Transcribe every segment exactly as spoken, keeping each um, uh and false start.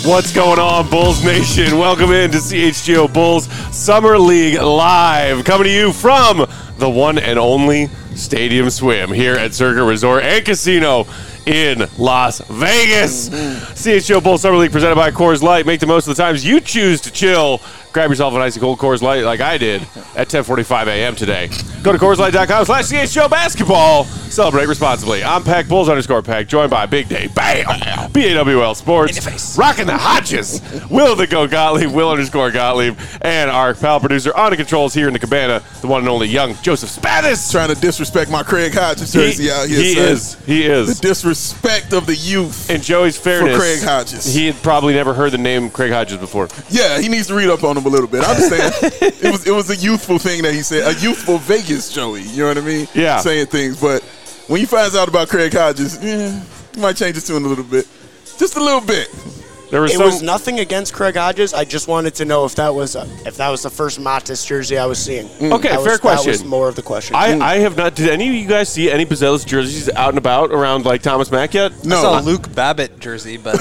What's going on, Bulls Nation? Welcome in to C H G O Bulls Summer League Live, coming to you from the one and only Stadium Swim here at Circuit Resort and Casino in Las Vegas. Mm-hmm. C H G O Bulls Summer League presented by Coors Light. Make the most of the times you choose to chill. Grab yourself an icy cold Coors Light like I did at ten forty-five a.m. today. Go to Coors Light dot com slash C H G O Basketball. Celebrate responsibly. I'm Peck, Bulls underscore Peck, joined by Big Day Bam, B A W L Sports, rocking the Hodges, Will the Go Gottlieb, Will underscore Gottlieb, and our pal producer on the controls here in the cabana, the one and only young Joseph Spathis. Trying to disrespect my Craig Hodges jersey he, out here. He son. is. He is. The disrespect of the youth. In Joey's fairness, for Craig Hodges. He had probably never heard the name Craig Hodges before. Yeah, he needs to read up on him a little bit. I understand. it was it was a youthful thing that he said. A youthful Vegas Joey. You know what I mean? Yeah. Saying things. But when he finds out about Craig Hodges, yeah, he might change his tune a little bit. Just a little bit. There was it some, was nothing against Craig Hodges. I just wanted to know if that was a, if that was the first Matis jersey I was seeing. Mm. Okay, that fair was, question. That was more of the question. I, mm. I have not. Did any of you guys see any Buzelis jerseys out and about around like Thomas Mack yet? No. I saw a Luke Babbitt jersey, but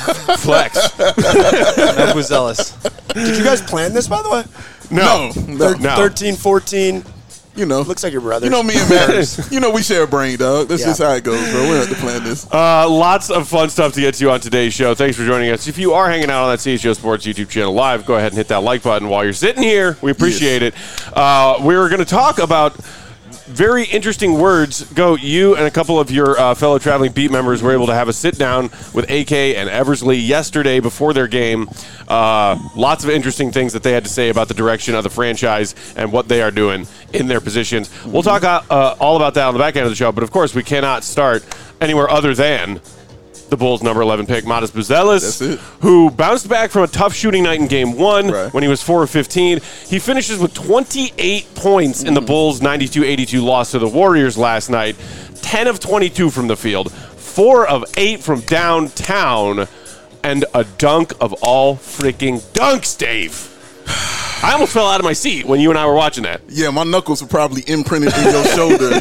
flex. no Buzelis. Did you guys plan this, by the way? No, no, no. thirteen, fourteen You know, looks like your brother. You know me and Matt. You know we share a brain, dog. That's Yeah. just how it goes, bro. We don't have to plan this. Uh, lots of fun stuff to get to on today's show. Thanks for joining us. If you are hanging out on that C H G O Sports YouTube channel live, go ahead and hit that like button while you're sitting here. We appreciate yes. it. Uh, we're going to talk about very interesting words. Go, you and a couple of your uh, fellow traveling beat members were able to have a sit down with A K and Eversley yesterday before their game. Uh, lots of interesting things that they had to say about the direction of the franchise and what they are doing in their positions. Mm-hmm. We'll talk uh, all about that on the back end of the show, but of course we cannot start anywhere other than the Bulls' number eleven pick, Matas Buzelis, who bounced back from a tough shooting night in game one right. when he was four of fifteen. He finishes with twenty-eight points mm. in the Bulls' ninety-two eighty-two loss to the Warriors last night, ten of twenty-two from the field, four of eight from downtown, and a dunk of all freaking dunks, Dave. I almost fell out of my seat when you and I were watching that. Yeah, my knuckles were probably imprinted in your shoulder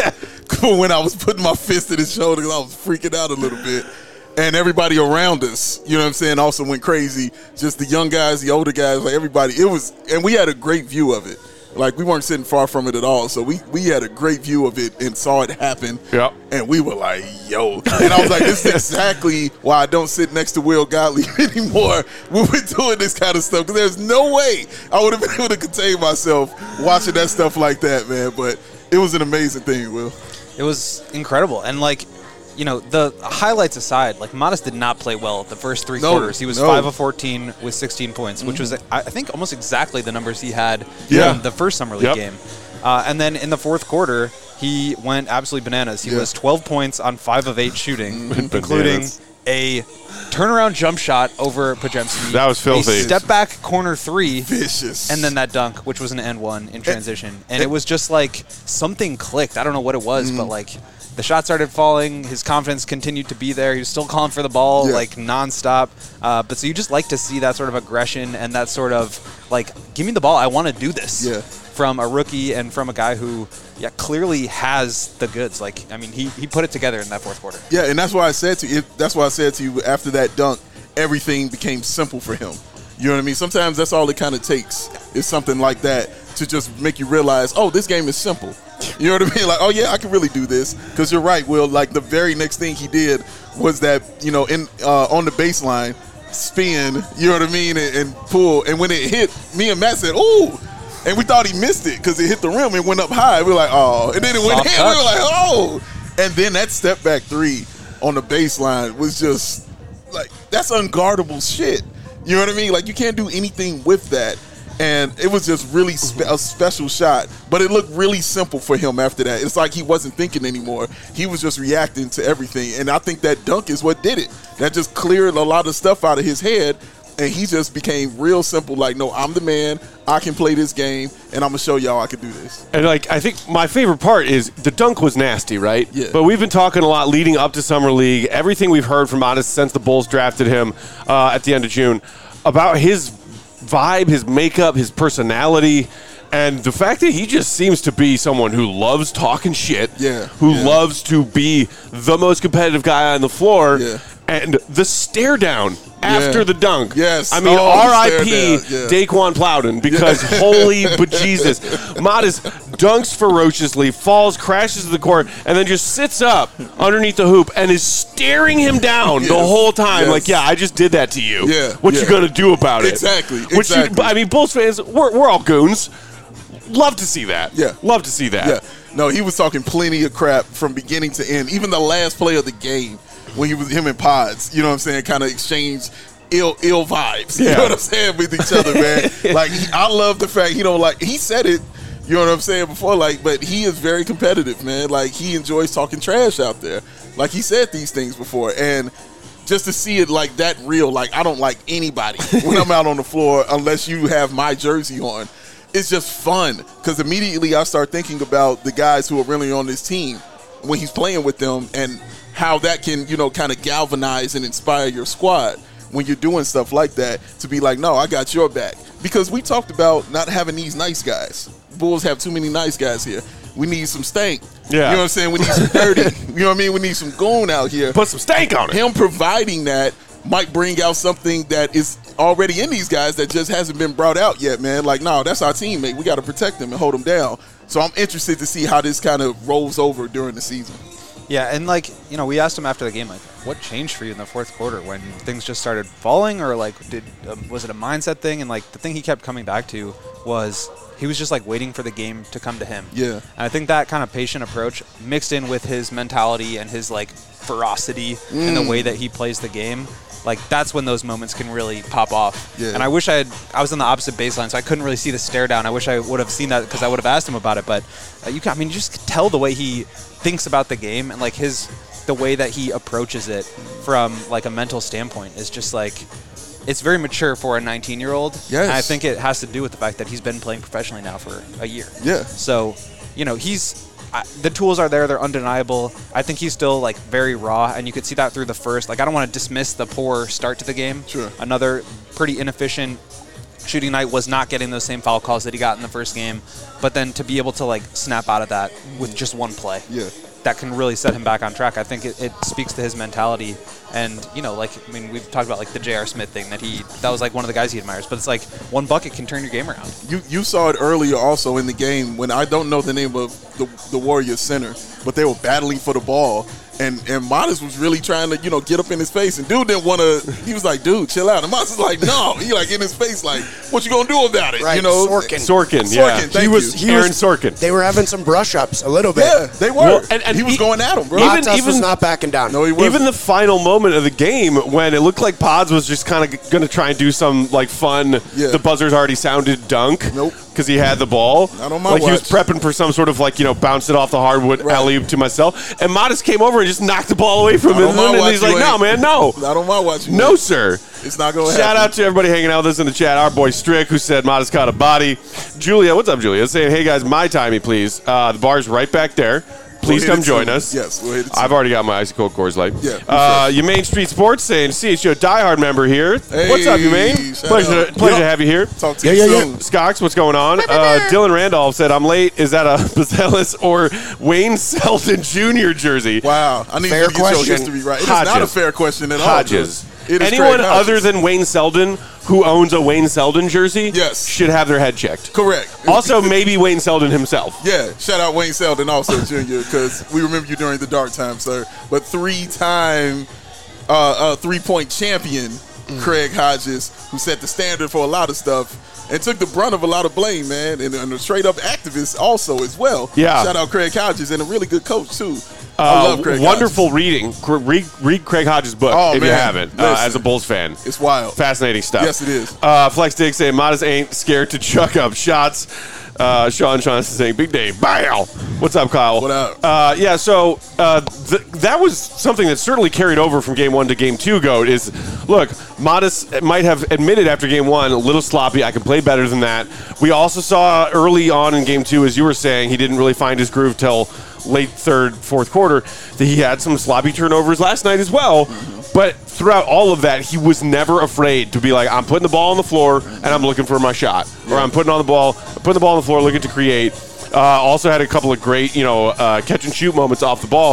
when I was putting my fist in his shoulder because I was freaking out a little bit. And everybody around us, you know what I'm saying, also went crazy. Just the young guys, the older guys, like everybody. It was, and we had a great view of it. Like, we weren't sitting far from it at all. So we, we had a great view of it and saw it happen. Yep. And we were like, yo. And I was like, this is exactly why I don't sit next to Will Gottlieb anymore when we're doing this kind of stuff. Because there's no way I would have been able to contain myself watching that stuff like that, man. But it was an amazing thing, Will. It was incredible. And, like, you know, the highlights aside, like, Matas did not play well the first three no, quarters. He was no. five of fourteen with sixteen points, mm-hmm. which was, I think, almost exactly the numbers he had yeah. in the first Summer League yep. game. Uh, and then in the fourth quarter, he went absolutely bananas. He yeah. was twelve points on five of eight shooting, including a turnaround jump shot over Podziemski. That was filthy. A step back corner three. Vicious. And then that dunk, which was an and one in transition. And, and it was just like something clicked. I don't know what it was, mm-hmm. but like the shot started falling. His confidence continued to be there. He was still calling for the ball yeah. like nonstop. Uh, but so you just like to see that sort of aggression and that sort of like, give me the ball. I want to do this. Yeah. From a rookie and from a guy who, yeah, clearly has the goods. Like, I mean, he, he put it together in that fourth quarter. Yeah, and that's why I said to you. That's why I said to you after that dunk, everything became simple for him. You know what I mean? Sometimes that's all it kind of takes is something like that to just make you realize, oh, this game is simple. You know what I mean? Like, oh yeah, I can really do this. Because you're right, Will. Like the very next thing he did was that, you know, in uh, on the baseline, spin. You know what I mean? And, and pull. And when it hit, me and Matt said, "Ooh." And we thought he missed it because it hit the rim and went up high. We were like, oh. And then it went in. We were like, oh. And then that step back three on the baseline was just like, that's unguardable shit. You know what I mean? Like, you can't do anything with that. And it was just really spe- a special shot. But it looked really simple for him after that. It's like he wasn't thinking anymore. He was just reacting to everything. And I think that dunk is what did it. That just cleared a lot of stuff out of his head. And he just became real simple, like, no, I'm the man. I can play this game, and I'm going to show y'all I can do this. And, like, I think my favorite part is the dunk was nasty, right? Yeah. But we've been talking a lot leading up to Summer League, everything we've heard from Matas since the Bulls drafted him uh, at the end of June, about his vibe, his makeup, his personality, and the fact that he just seems to be someone who loves talking shit, yeah, who yeah. loves to be the most competitive guy on the floor. Yeah. And the stare down after Yeah. the dunk. Yes. I mean, Oh, R I P stare down, yeah. Daquan Plowden, because holy bejesus. Modest dunks ferociously, falls, crashes to the court, and then just sits up underneath the hoop and is staring him down Yes. the whole time. Yes. Like, yeah, I just did that to you. Yeah. What Yeah. you going to do about it? Exactly, Which you, exactly. I mean, Bulls fans, we're, we're all goons. Love to see that. Yeah. Love to see that. Yeah. No, he was talking plenty of crap from beginning to end. Even the last play of the game, when he was him and Pods, you know what I'm saying, kind of exchanged ill ill vibes. Yeah. You know what I'm saying, with each other, man. Like, he, I love the fact he don't like. He said it. You know what I'm saying before, like, but he is very competitive, man. Like, he enjoys talking trash out there. Like, he said these things before, and just to see it like that real, like, I don't like anybody when I'm out on the floor unless you have my jersey on. It's just fun because immediately I start thinking about the guys who are really on this team when he's playing with them and how that can, you know, kind of galvanize and inspire your squad when you're doing stuff like that, to be like, no, I got your back. Because we talked about not having these nice guys. Bulls have too many nice guys here. We need some stank. Yeah. You know what I'm saying? We need some dirty. You know what I mean? We need some goon out here. Put some stank on it. Him providing that might bring out something that is already in these guys that just hasn't been brought out yet, man. Like, no, that's our teammate. We got to protect him and hold him down. So I'm interested to see how this kind of rolls over during the season. Yeah, and like, you know, we asked him after the game, like, what changed for you in the fourth quarter when things just started falling, or like, did um, was it a mindset thing? And like, the thing he kept coming back to was he was just like waiting for the game to come to him. Yeah. And I think that kind of patient approach mixed in with his mentality and his like ferocity Mm. in the way that he plays the game, like that's when those moments can really pop off. Yeah. And I wish I had, I was on the opposite baseline, so I couldn't really see the stare down. I wish I would have seen that because I would have asked him about it. But uh, you can, I mean, you just could tell the way he thinks about the game and like his, the way that he approaches it from like a mental standpoint is just like, it's very mature for a nineteen year old. Yes. And I think it has to do with the fact that he's been playing professionally now for a year. Yeah. So, you know, he's, I, the tools are there. They're undeniable. I think he's still like very raw, and you could see that through the first. Like, I don't want to dismiss the poor start to the game. Sure. Another pretty inefficient shooting night, was not getting those same foul calls that he got in the first game. But then to be able to like snap out of that with just one play, Yeah. that can really set him back on track. I think it, it speaks to his mentality. And, you know, like, I mean, we've talked about like the J R. Smith thing that he, that was like one of the guys he admires. But it's like one bucket can turn your game around. You you saw it earlier also in the game when I don't know the name of the, the Warriors center, but they were battling for the ball. And and Modest was really trying to, you know, get up in his face. And dude didn't want to, he was like, dude, chill out. And Modest was like, no. He like in his face like, what you going to do about it? Right, You know? Sorkin. Sorkin, yeah. Sorkin, thank he was you. Aaron was- Sorkin. They were having some brush ups a little bit. Yeah, they were. Well, and- and he was he- going at him, bro. even- Matas was not backing down. no, he wasn't. Even the final moment of the game when it looked like Pods was just kind of going to try and do some like fun, Yeah. the buzzers already sounded dunk. Nope. Because he had the ball. Not on my like he was watch. prepping for some sort of like, you know, bounce it off the hardwood Right. alley-oop to myself. And Modest came over and just knocked the ball away from Not him. on my And watch, he's you like, no, ain't. man, no. Not on my watch. No, sir. It's not going to Shout happen. out to everybody hanging out with us in the chat. Our boy Strick, who said Modest caught a body. Julia, what's up, Julia? Saying, hey, guys, my timey, please. Uh, the bar's right back there. Please We'll hit come it join soon. us. Yes, we'll hit it I've soon. already got my icy cold Coors Light. Yeah, Uh, your Main Street Sports saying, C H O diehard member here. What's up, you Maine? shout Pleasure, out. pleasure to Yeah. have you here. Talk to Yeah, you yeah, soon. Skox, what's going on? Uh, Dylan Randolph said, I'm late. Is that a Bazelis or Wayne Selden Junior jersey? Wow. I need Fair you to get your question. history right. It is not a Hodges. fair question at all. Hodges. It is Anyone Craig Hodges. other than Wayne Selden who owns a Wayne Selden jersey Yes. should have their head checked. Correct. Also, maybe Wayne Selden himself. Yeah, shout out Wayne Selden also, Junior, because we remember you during the dark time, sir. But three-time uh, uh, three-point champion Craig Hodges, who set the standard for a lot of stuff and took the brunt of a lot of blame, man, and, and a straight-up activist also as well. Yeah. Shout out Craig Hodges, and a really good coach, too. I Uh, love Craig wonderful Hodges. reading. Cr- Read, read Craig Hodges' book Oh, if you man. haven't, uh, Listen. as a Bulls fan. It's wild. Fascinating stuff. Yes, it is. Uh, Flex Dick saying, Modest ain't scared to chuck up shots. Uh, Sean Johnson saying, Big Day, bow. What's up, Kyle? What up? Uh, yeah, so uh, th- that was something that certainly carried over from game one to game two, Goat, is, look, Modest might have admitted after game one, a little sloppy, I can play better than that. We also saw early on in game two, as you were saying, he didn't really find his groove till late third, fourth quarter, that he had some sloppy turnovers last night as well. Mm-hmm. But throughout all of that, he was never afraid to be like, I'm putting the ball on the floor and I'm looking for my shot. Or I'm putting on the ball, putting the ball on the floor, looking to create. Uh, also had a couple of great, you know, uh, catch and shoot moments off the ball.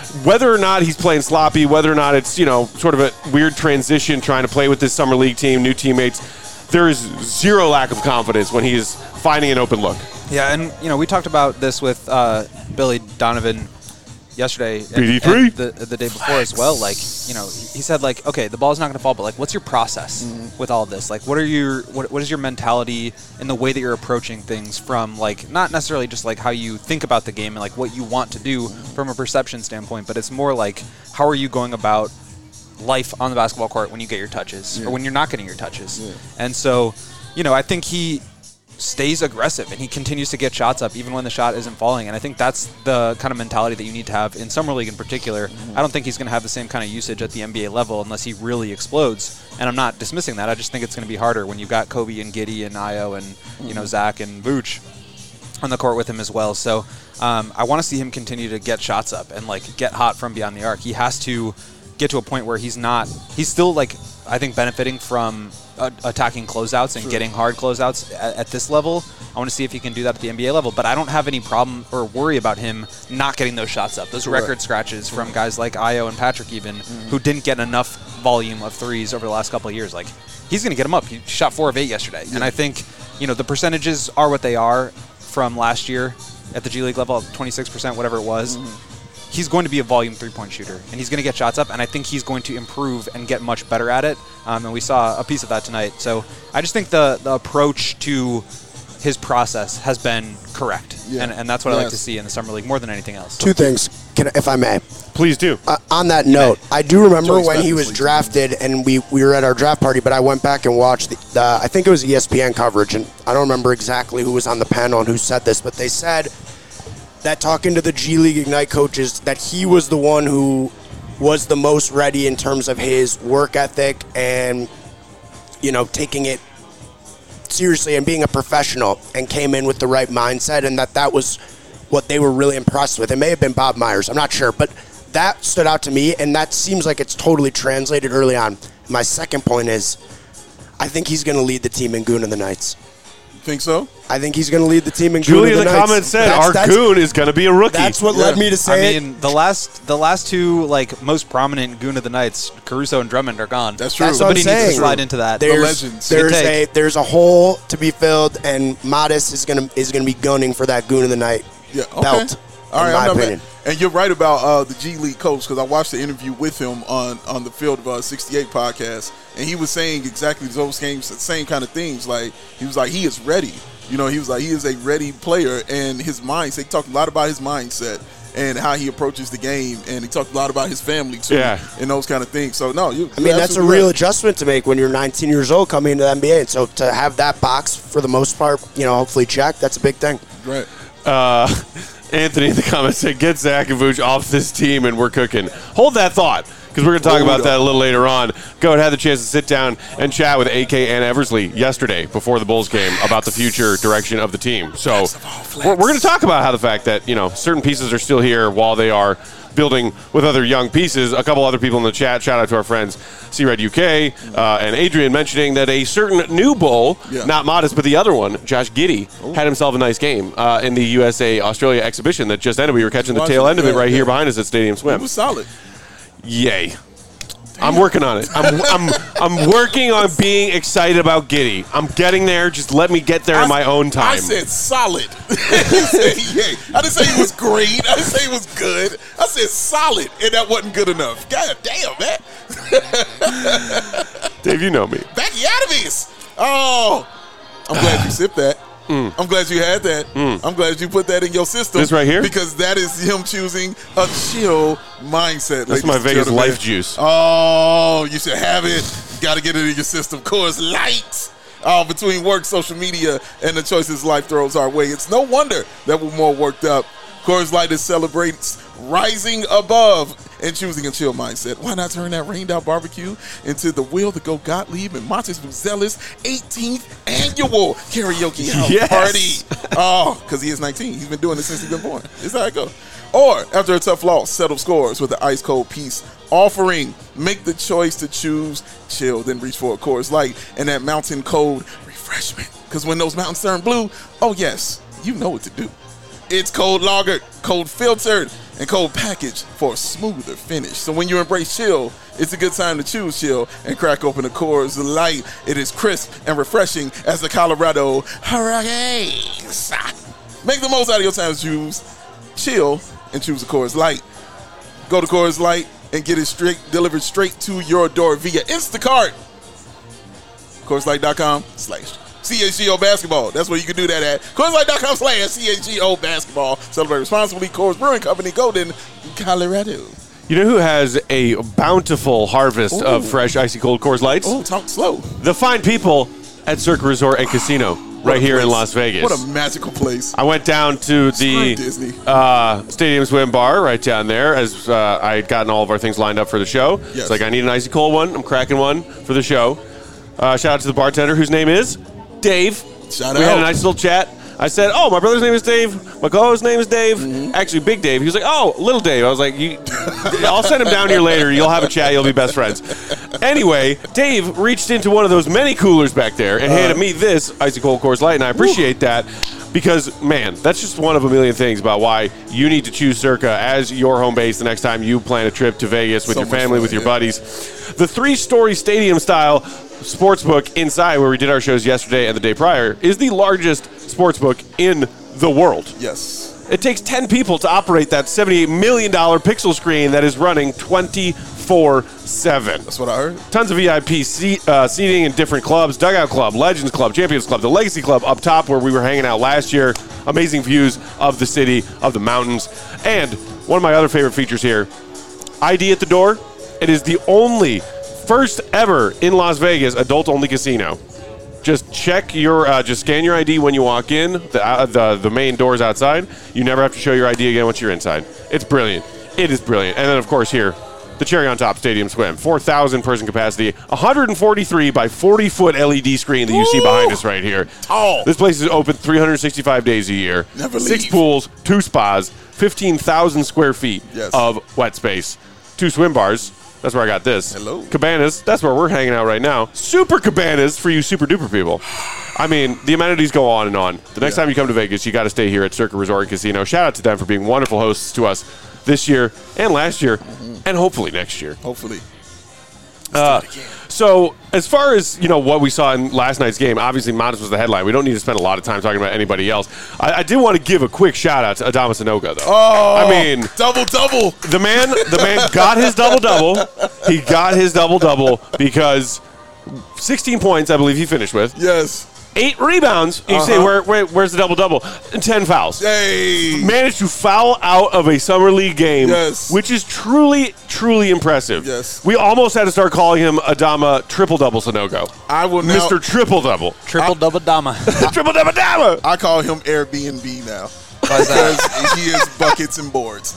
whether or not he's playing sloppy, whether or not it's, you know, sort of a weird transition trying to play with this summer league team, new teammates, there is zero lack of confidence when he's finding an open look. Yeah, and, you know, we talked about this with uh, Billy Donovan yesterday B D three and the, the day before as well. Like, you know, he said, like, okay, the ball's not going to fall, but, like, what's your process mm-hmm. with all of this? Like, what are your what, what is your mentality and the way that you're approaching things from, like, not necessarily just, like, how you think about the game and, like, what you want to do from a perception standpoint, but it's more like, how are you going about life on the basketball court when you get your touches yeah. or when you're not getting your touches? Yeah. And so, you know, I think he stays aggressive and he continues to get shots up even when the shot isn't falling, and I think that's the kind of mentality that you need to have in summer league in particular. Mm-hmm. I don't think he's going to have the same kind of usage at the N B A level unless he really explodes, and I'm not dismissing that. I just think it's going to be harder when you've got Kobe and Giddey and Ayo and mm-hmm. you know Zach and Vooch on the court with him as well. So um, I want to see him continue to get shots up and like get hot from beyond the arc. He has to get to a point where he's not he's still like I think benefiting from uh, attacking closeouts and sure. getting hard closeouts at, at this level. I want to see if he can do that at the N B A level, but I don't have any problem or worry about him not getting those shots up. Those right. record scratches from guys like Ayo and Patrick even mm-hmm. who didn't get enough volume of threes over the last couple of years. Like, he's going to get them up. He shot four of eight yesterday. Yeah. And I think, you know, the percentages are what they are from last year at the G League level, twenty-six percent, whatever it was. Mm-hmm. He's going to be a volume three-point shooter, and he's going to get shots up, and I think he's going to improve and get much better at it, um, and we saw a piece of that tonight. So I just think the, the approach to his process has been correct, yeah. and, and that's what yes. I like to see in the Summer League more than anything else. Two things, can, if I may. Please do. Uh, on that note, I do remember Joyce when he was drafted, and we, we were at our draft party, but I went back and watched, the, the I think it was E S P N coverage, and I don't remember exactly who was on the panel and who said this, but they said that talking to the G League Ignite coaches, that he was the one who was the most ready in terms of his work ethic and, you know, taking it seriously and being a professional, and came in with the right mindset, and that that was what they were really impressed with. It may have been Bob Myers, I'm not sure, but that stood out to me, and that seems like it's totally translated early on. My second point is, I think he's going to lead the team in Goon of the Nights. Think so? I think he's going to lead the team in Julie Goon in of the, the comments said that's, our that's, Goon is going to be a rookie. That's what yeah. led me to say I mean, the last the last two like most prominent Goon of the Nights, Caruso and Drummond, are gone. That's true. That's Somebody what I'm needs saying. to slide into that. There's, the legends. There's Good a there's a hole to be filled, and Modest is going to is going to be gunning for that Goon of the Night yeah, okay. belt. All right, in my I'm not opinion. mad. And you're right about uh, the G League coach, because I watched the interview with him on, on the Field of uh, sixty-eight podcast, and he was saying exactly those games, the same kind of things. Like, he was like, he is ready. You know, he was like, he is a ready player, and his mindset, he talked a lot about his mindset and how he approaches the game, and he talked a lot about his family, too, yeah. and those kind of things. So, no, you I mean, that's a real right. adjustment to make when you're nineteen years old coming into the N B A, and so to have that box, for the most part, you know, hopefully checked, that's a big thing. Right. Uh, Anthony in the comments said, get Zach and Vooch off this team and we're cooking. Hold that thought, because we're going to talk about that a little later on. Go and had the chance to sit down and chat with A K and Eversley yesterday before the Bulls game about the future direction of the team. So we're, we're going to talk about how the fact that, you know, certain pieces are still here while they are building with other young pieces. A couple other people in the chat, shout out to our friends C-Red U K uh, and Adrian, mentioning that a certain new Bull, yeah. not Modest, but the other one, Josh Giddey, Ooh. had himself a nice game uh, in the U S A Australia exhibition that just ended. We were catching the tail end of it right yeah. here behind us at Stadium Swim. It was solid. Yay. I'm working on it. I'm, I'm I'm working on being excited about Giddey. I'm getting there. Just let me get there I, in my own time. I said solid. said, yay. I didn't say he was great. I didn't say he was good. I said solid, and that wasn't good enough. God damn, man. Dave, you know me. Becky Adams. Oh, I'm glad you sipped that. Mm. I'm glad you had that. Mm. I'm glad you put that in your system. This right here? Because that is him choosing a chill mindset. That's my Vegas Life juice. Oh, you should have it. Got to get it in your system. Coors Light. Oh, between work, social media, and the choices life throws our way, it's no wonder that we're more worked up. Coors Light is celebrates rising above and choosing a chill mindset. Why not turn that rained out barbecue into the Will to Go Gottlieb and Montes Buzelis eighteenth annual karaoke house yes. party? Oh, because he is nineteen. He's been doing this since he's been born. This is how it goes. Or, after a tough loss, settle scores with the ice cold peace offering. Make the choice to choose chill, then reach for a Coors Light and that mountain cold refreshment. Because when those mountains turn blue, oh yes, you know what to do. It's cold lagered, cold filtered, and cold packaged for a smoother finish. So when you embrace chill, it's a good time to choose chill and crack open the Coors Light. It is crisp and refreshing as the Colorado Hurricanes. Make the most out of your time to choose chill and choose a Coors Light. Go to Coors Light and get it straight delivered straight to your door via Instacart. Coors Light dot com slash C H G O basketball. That's where you can do that at. Coors Light dot com slash C H G O basketball. Celebrate responsibly. Coors Brewing Company, Golden, Colorado. You know who has a bountiful harvest Ooh. of fresh, icy cold Coors Lights? Oh, talk slow. The fine people at Circa Resort and Casino right here place. in Las Vegas. What a magical place. I went down to the Disney. uh, Stadium Swim Bar right down there as uh, I had gotten all of our things lined up for the show. Yes. It's like, I need an icy cold one. I'm cracking one for the show. Uh, shout out to the bartender whose name is Dave. Shout we out. had a nice little chat. I said, oh, my brother's name is Dave. My co-host's name is Dave. Mm-hmm. Actually, Big Dave. He was like, oh, Little Dave. I was like, you, I'll send him down here later. You'll have a chat. You'll be best friends. Anyway, Dave reached into one of those many coolers back there and uh, handed me this Icy Cold Coors Light, and I appreciate woo. that because, man, that's just one of a million things about why you need to choose Circa as your home base the next time you plan a trip to Vegas with so your family, fun, with your yeah. buddies. The three-story stadium-style sportsbook inside where we did our shows yesterday and the day prior is the largest sportsbook in the world. Yes. It takes ten people to operate that seventy-eight million dollars pixel screen that is running twenty-four seven. That's what I heard. Tons of V I P seat, uh, seating in different clubs, Dugout Club, Legends Club, Champions Club, the Legacy Club up top where we were hanging out last year. Amazing views of the city, of the mountains. And one of my other favorite features here, I D at the door. It is the only first ever in Las Vegas adult-only casino. Just check your, uh, just scan your I D when you walk in, the, uh, the the main doors outside. You never have to show your I D again once you're inside. It's brilliant. It is brilliant. And then, of course, here, the cherry on top Stadium Swim. four thousand person capacity, one hundred forty-three by forty foot L E D screen that you see behind us right here. Tall. This place is open three hundred sixty-five days a year. Never Six leave. pools, two spas, fifteen thousand square feet Yes. of wet space, two swim bars. That's where I got this. Hello. Cabanas. That's where we're hanging out right now. Super cabanas for you super duper people. I mean, the amenities go on and on. The next Yeah. time you come to Vegas, you got to stay here at Circa Resort and Casino. Shout out to them for being wonderful hosts to us this year and last year Mm-hmm. and hopefully next year. Hopefully. Uh, so as far as, you know, what we saw in last night's game, obviously Modest was the headline. We don't need to spend a lot of time talking about anybody else. I, I did want to give a quick shout out to Adama Sanogo, though. Oh, I mean, double double. the man, the man got his double double. He got his double double because sixteen points, I believe he finished with. Yes. Eight rebounds. You Uh-huh. say, where, where, where's the double double? And ten fouls. Hey. Managed to foul out of a summer league game, Yes. which is truly, truly impressive. Yes. We almost had to start calling him Adama Triple Double Sanogo. I will now. Mister Triple Double. Triple double dama. Triple Double Dama. I call him Airbnb now Why's that? because he is buckets and boards.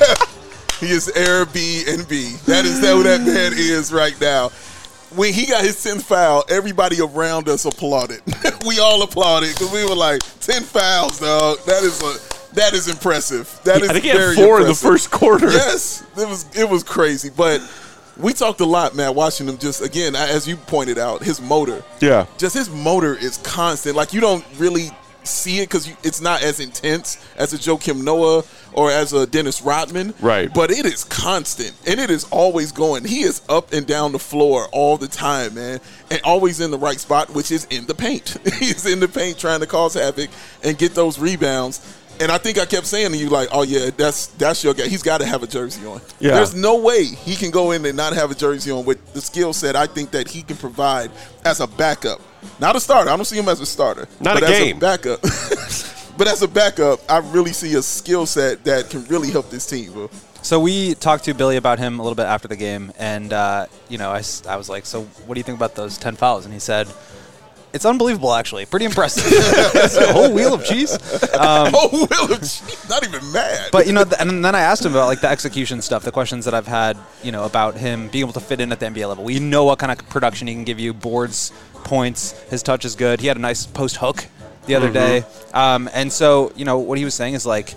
He is Airbnb. That is who that man is right now. When he got his tenth foul, everybody around us applauded. We all applauded because we were like, ten fouls, dog. That is a that is impressive. That is I think he very had four in the impressive. first quarter. Yes, it was it was crazy. But we talked a lot, man, watching him just, again, as you pointed out, his motor. Yeah. Just his motor is constant. Like, you don't really see it because it's not as intense as a Joakim Noah or as a Dennis Rodman. Right. But it is constant, and it is always going. He is up and down the floor all the time, man, and always in the right spot, which is in the paint. He's in the paint trying to cause havoc and get those rebounds. And I think I kept saying to you, like, oh, yeah, that's that's your guy. He's got to have a jersey on. Yeah. There's no way he can go in and not have a jersey on with the skill set I think that he can provide as a backup. Not a starter. I don't see him as a starter. Not but a as game. a backup. But as a backup, I really see a skill set that can really help this team, bro. So we talked to Billy about him a little bit after the game, and uh, you know, I, s- I was like, "So what do you think about those ten fouls?" And he said, "It's unbelievable, actually. Pretty impressive." It's a whole wheel of cheese. Um, Oh, Will of Cheese, not even mad. But you know, th- and then I asked him about like the execution stuff, the questions that I've had, you know, about him being able to fit in at the N B A level. We know what kind of production he can give you: boards, points. His touch is good. He had a nice post hook the other day, um, and so you know what he was saying is like,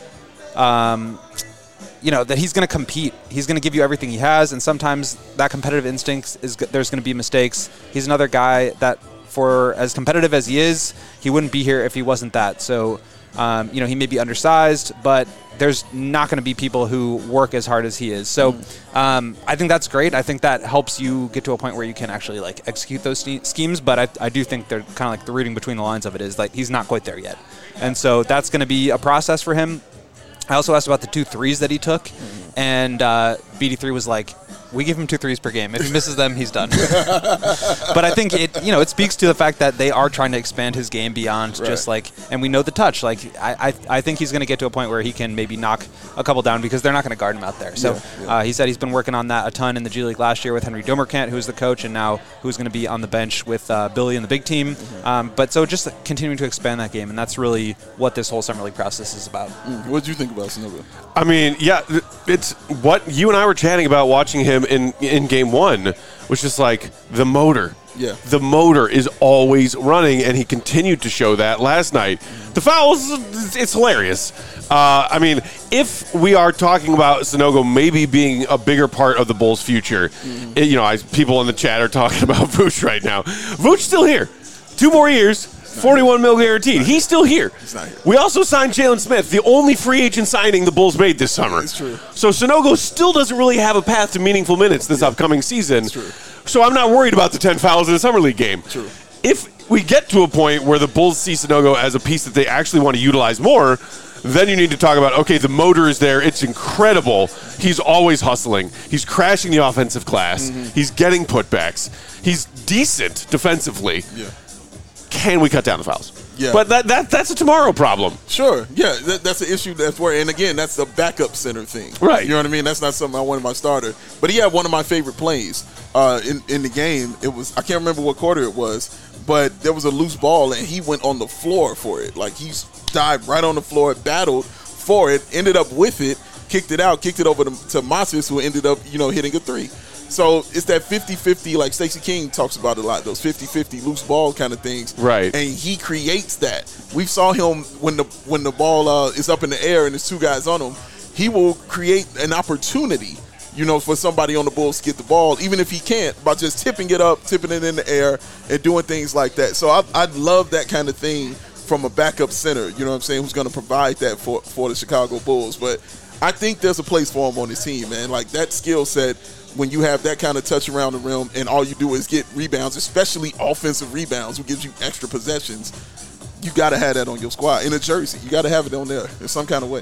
um, you know, that he's going to compete. He's going to give you everything he has, and sometimes that competitive instinct is g- there's going to be mistakes. He's another guy that, for as competitive as he is, he wouldn't be here if he wasn't that. So. Um, you know, he may be undersized, but there's not going to be people who work as hard as he is. So um, I think that's great. I think that helps you get to a point where you can actually like execute those st- schemes. But I, I do think they're kind of like the reading between the lines of it is like he's not quite there yet. And so that's going to be a process for him. I also asked about the two threes that he took, and uh, B D three was like, we give him two threes per game. If he misses them, he's done. But I think it, you know, it speaks to the fact that they are trying to expand his game beyond Right. just like, and we know the touch. Like, I, I, I think he's going to get to a point where he can maybe knock a couple down because they're not going to guard him out there. So Yeah, yeah. Uh, he said he's been working on that a ton in the G League last year with Henry Domerkant, who's the coach, and now who's going to be on the bench with uh, Billy and the big team. Mm-hmm. Um, but so just continuing to expand that game, and that's really what this whole summer league process is about. What did you think about Sanogo? I mean, yeah, th- it's what you and I were chatting about watching him in, in game one, was just like the motor. Yeah. The motor is always running, and he continued to show that last night. The fouls, it's, it's hilarious. Uh, I mean, if we are talking about Sanogo maybe being a bigger part of the Bulls' future, Mm-hmm. it- you know, I, people in the chat are talking about Vooch right now. Vooch's still here. Two more years. forty-one mil guaranteed. He's still here. He's not here. We also signed Jalen Smith, the only free agent signing the Bulls made this summer. It's true. So Sanogo still doesn't really have a path to meaningful minutes this upcoming season. It's true. So I'm not worried about the ten fouls in a summer league game. True. If we get to a point where the Bulls see Sanogo as a piece that they actually want to utilize more, then you need to talk about, okay, the motor is there. It's incredible. He's always hustling. He's crashing the offensive glass. Mm-hmm. He's getting putbacks. He's decent defensively. Yeah. Can we cut down the fouls? Yeah. But that, that that's a tomorrow problem. Sure. Yeah, that, that's the issue. That's where, and again, that's the backup center thing. Right. You know what I mean? That's not something I wanted my starter. But he had one of my favorite plays uh, in in the game. It was I can't remember what quarter it was, but there was a loose ball and he went on the floor for it. Like he dived right on the floor, battled for it, ended up with it, kicked it out, kicked it over to, to Moses, who ended up you know hitting a three. So it's that fifty-fifty, like Stacey King talks about a lot, those fifty-fifty loose ball kind of things. Right. And he creates that. We saw him when the when the ball uh, is up in the air and there's two guys on him, he will create an opportunity, you know, for somebody on the Bulls to get the ball, even if he can't, by just tipping it up, tipping it in the air, and doing things like that. So I, I'd love that kind of thing from a backup center, you know what I'm saying, who's going to provide that for, for the Chicago Bulls. But I think there's a place for him on his team, man. Like that skill set, when you have that kind of touch around the rim and all you do is get rebounds, especially offensive rebounds, which gives you extra possessions, you got to have that on your squad. In a jersey, you got to have it on there in some kind of way.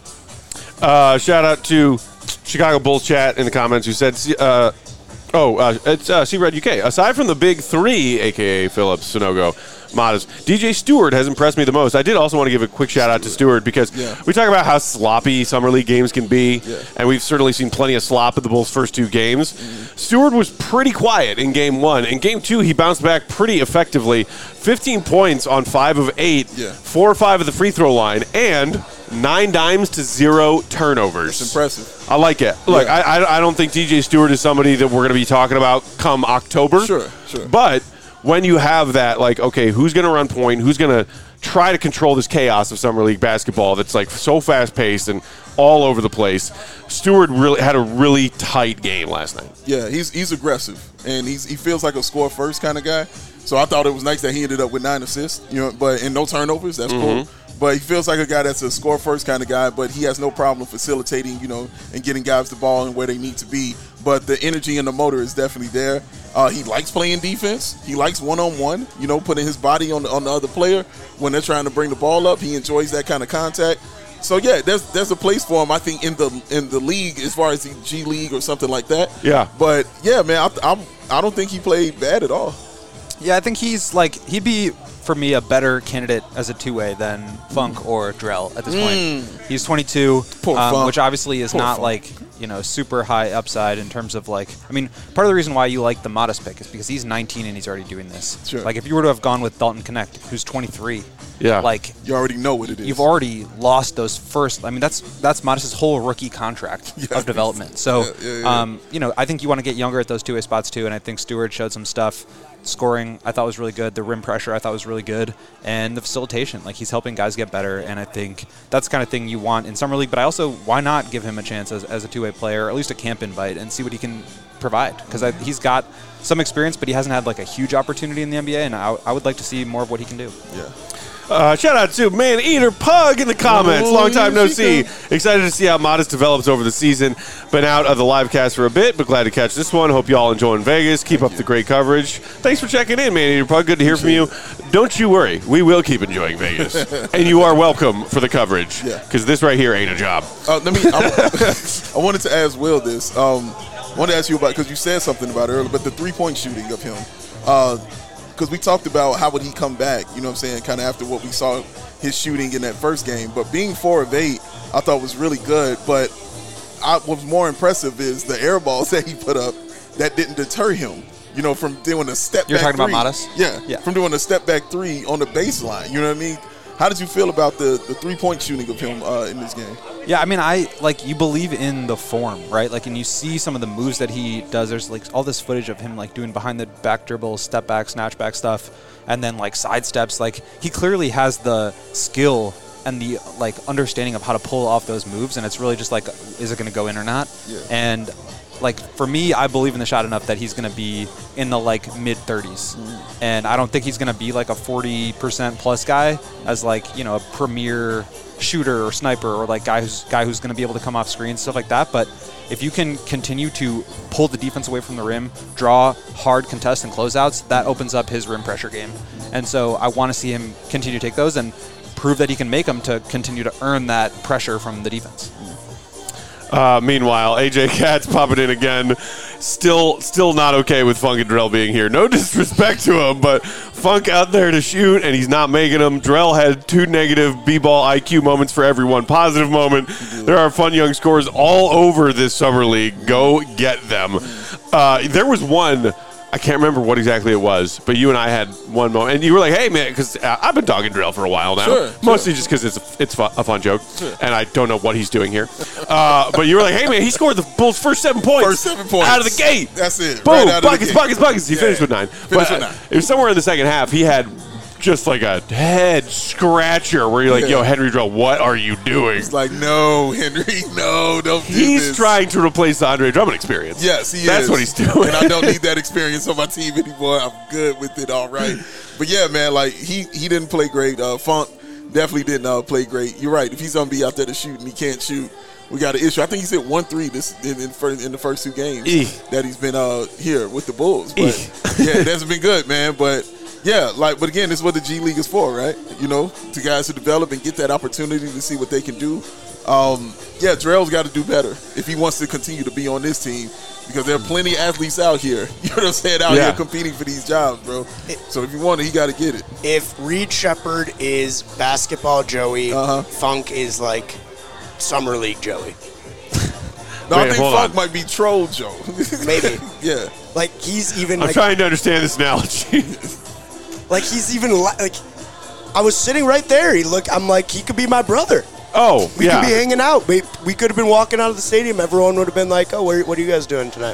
Uh, shout out to Chicago Bulls chat in the comments who said, uh, oh, uh, it's uh, C-Red U K. Aside from the big three, a k a. Phillips, Sanogo, Modest, D J Stewart has impressed me the most. I did also want to give a quick shout out to Stewart because Yeah. we talk about how sloppy summer league games can be, Yeah. and we've certainly seen plenty of slop in the Bulls' first two games. Mm-hmm. Stewart was pretty quiet in game one. In game two, he bounced back pretty effectively. fifteen points on five of eight, Yeah. four or five at the free throw line, and nine dimes to zero turnovers. It's impressive. I like it. Look, Yeah. I, I I don't think D J Stewart is somebody that we're going to be talking about come October. Sure, sure. But when you have that, like, okay, who's going to run point? Who's going to try to control this chaos of summer league basketball that's like so fast paced and all over the place? Stewart really had a really tight game last night. Yeah, he's he's aggressive, and he's he feels like a score first kind of guy. So I thought it was nice that he ended up with nine assists, you know, but and no turnovers. That's Mm-hmm. cool. But he feels like a guy that's a score first kind of guy, but he has no problem facilitating, you know, and getting guys the ball and where they need to be. But the energy and the motor is definitely there. Uh, he likes playing defense. He likes one on one, you know, putting his body on the, on the other player when they're trying to bring the ball up. He enjoys that kind of contact. So yeah, there's there's a place for him, I think, in the in the league as far as the G League or something like that. Yeah. But yeah, man, I, I'm I don't think he played bad at all. Yeah, I think he's like he'd be for me a better candidate as a two-way than Funk or Drell at this point. He's twenty-two, Poor um, Funk. which obviously is Poor not Funk. like you know super high upside in terms of like. I mean, part of the reason why you like the Modest pick is because he's nineteen and he's already doing this. Sure. Like if you were to have gone with Dalton Connect, who's twenty-three, Yeah. like You already know what it is. you've already lost those first. I mean, that's that's Modest's whole rookie contract Yeah. of development. So, Yeah, yeah, yeah. Um, you know, I think you want to get younger at those two-way spots too. And I think Stewart showed some stuff. Scoring, I thought was really good. The rim pressure, I thought was really good, and the facilitation, like he's helping guys get better. And I think that's the kind of thing you want in summer league. But I also, why not give him a chance as, as a two-way player, or at least a camp invite, and see what he can provide? Because he's got some experience, but he hasn't had like a huge opportunity in the N B A, and I, I would like to see more of what he can do. Yeah. Uh, shout out to Man Eater Pug in the comments. Oh, Long time no she see. come. Excited to see how Modest develops over the season. Been out of the live cast for a bit, but glad to catch this one. Hope you all enjoying Vegas. Keep up the great coverage. Thanks for checking in, Man Eater Pug. Good to hear from you. Don't you worry. We will keep enjoying Vegas. And you are welcome for the coverage. Yeah. Because this right here ain't a job. Uh, let me. I, I wanted to ask Will this. Um, I wanted to ask you about, because you said something about it earlier, but the three-point shooting of him. Because we talked about how would he come back, you know what I'm saying, kind of after what we saw his shooting in that first game. But being four of eight, I thought was really good. But I, what's more impressive is the air balls that he put up that didn't deter him, you know, from doing a step You're back talking three. about Modest? Yeah, Yeah. from doing a step back three on the baseline, you know what I mean? How did you feel about the, the three-point shooting of him uh, in this game? Yeah, I mean, I like you believe in the form, right? Like, and you see some of the moves that he does. There's like all this footage of him like doing behind the back dribble, step back, snatch back stuff, and then like side steps. Like, he clearly has the skill and the like understanding of how to pull off those moves. And it's really just like, is it going to go in or not? Yeah. And like for me, I believe in the shot enough that he's going to be in the like mid thirties, Mm. and I don't think he's going to be like a forty percent plus guy as like, you know, a premier shooter or sniper or like guy who's guy who's going to be able to come off screen, stuff like that. But if you can continue to pull the defense away from the rim, draw hard contests and closeouts, that opens up his rim pressure game. And so I want to see him continue to take those and prove that he can make them to continue to earn that pressure from the defense. Uh, meanwhile, A J Katz popping in again. Still still not okay with Funk and Drell being here. No disrespect to him, but Funk out there to shoot, and he's not making them. Drell had two negative B-ball I Q moments for every one positive moment. There are fun young scores all over this summer league. Go get them. Uh, there was one... I can't remember what exactly it was, but you and I had one moment, and you were like, "Hey, man," because I've been dogging Drell for a while now, Sure, mostly sure. just because it's a, it's fu- a fun joke, and I don't know what he's doing here. Uh, but you were like, "Hey, man, he scored the Bulls' first seven points, First seven points. out of the gate. That's it. Boom, Right out of the buckets, gate. buckets, buckets." He Yeah. finished with nine. Finished but with uh, nine. it was somewhere in the second half. He had just like a head scratcher where you're like, Yeah. "Yo, Henry Drell, what are you doing?" It's like, no, Henry, no, don't do He's this. trying to replace the Andre Drummond experience. Yes, he That's is. what he's doing. And I don't need that experience on my team anymore. I'm good with it, all right. But yeah, man, like he he didn't play great. Uh, Funk definitely didn't uh, play great. You're right. If he's gonna be out there to shoot and he can't shoot, we got an issue. I think he's hit one three this in in, first, in the first two games Eek. that he's been uh, here with the Bulls. But Eek. yeah, it hasn't been good, man. But yeah, like, but again, this is what the G League is for, right? You know, to guys to develop and get that opportunity to see what they can do. Um, yeah, Drell's got to do better if he wants to continue to be on this team, because there are plenty of athletes out here, you know what I'm saying, out Yeah. here competing for these jobs, bro. So if you want it, he got to get it. If Reed Shepard is basketball Joey, Uh-huh. Funk is like summer league Joey. No, Wait, I think hold Funk on. might be troll Joe. Maybe. Yeah. Like he's even I'm like, trying to understand this analogy. like he's even li- like I was sitting right there. He look. I'm like he could be my brother. Oh, We yeah. could be hanging out. We, we could have been walking out of the stadium. Everyone would have been like, "Oh, where, what are you guys doing tonight?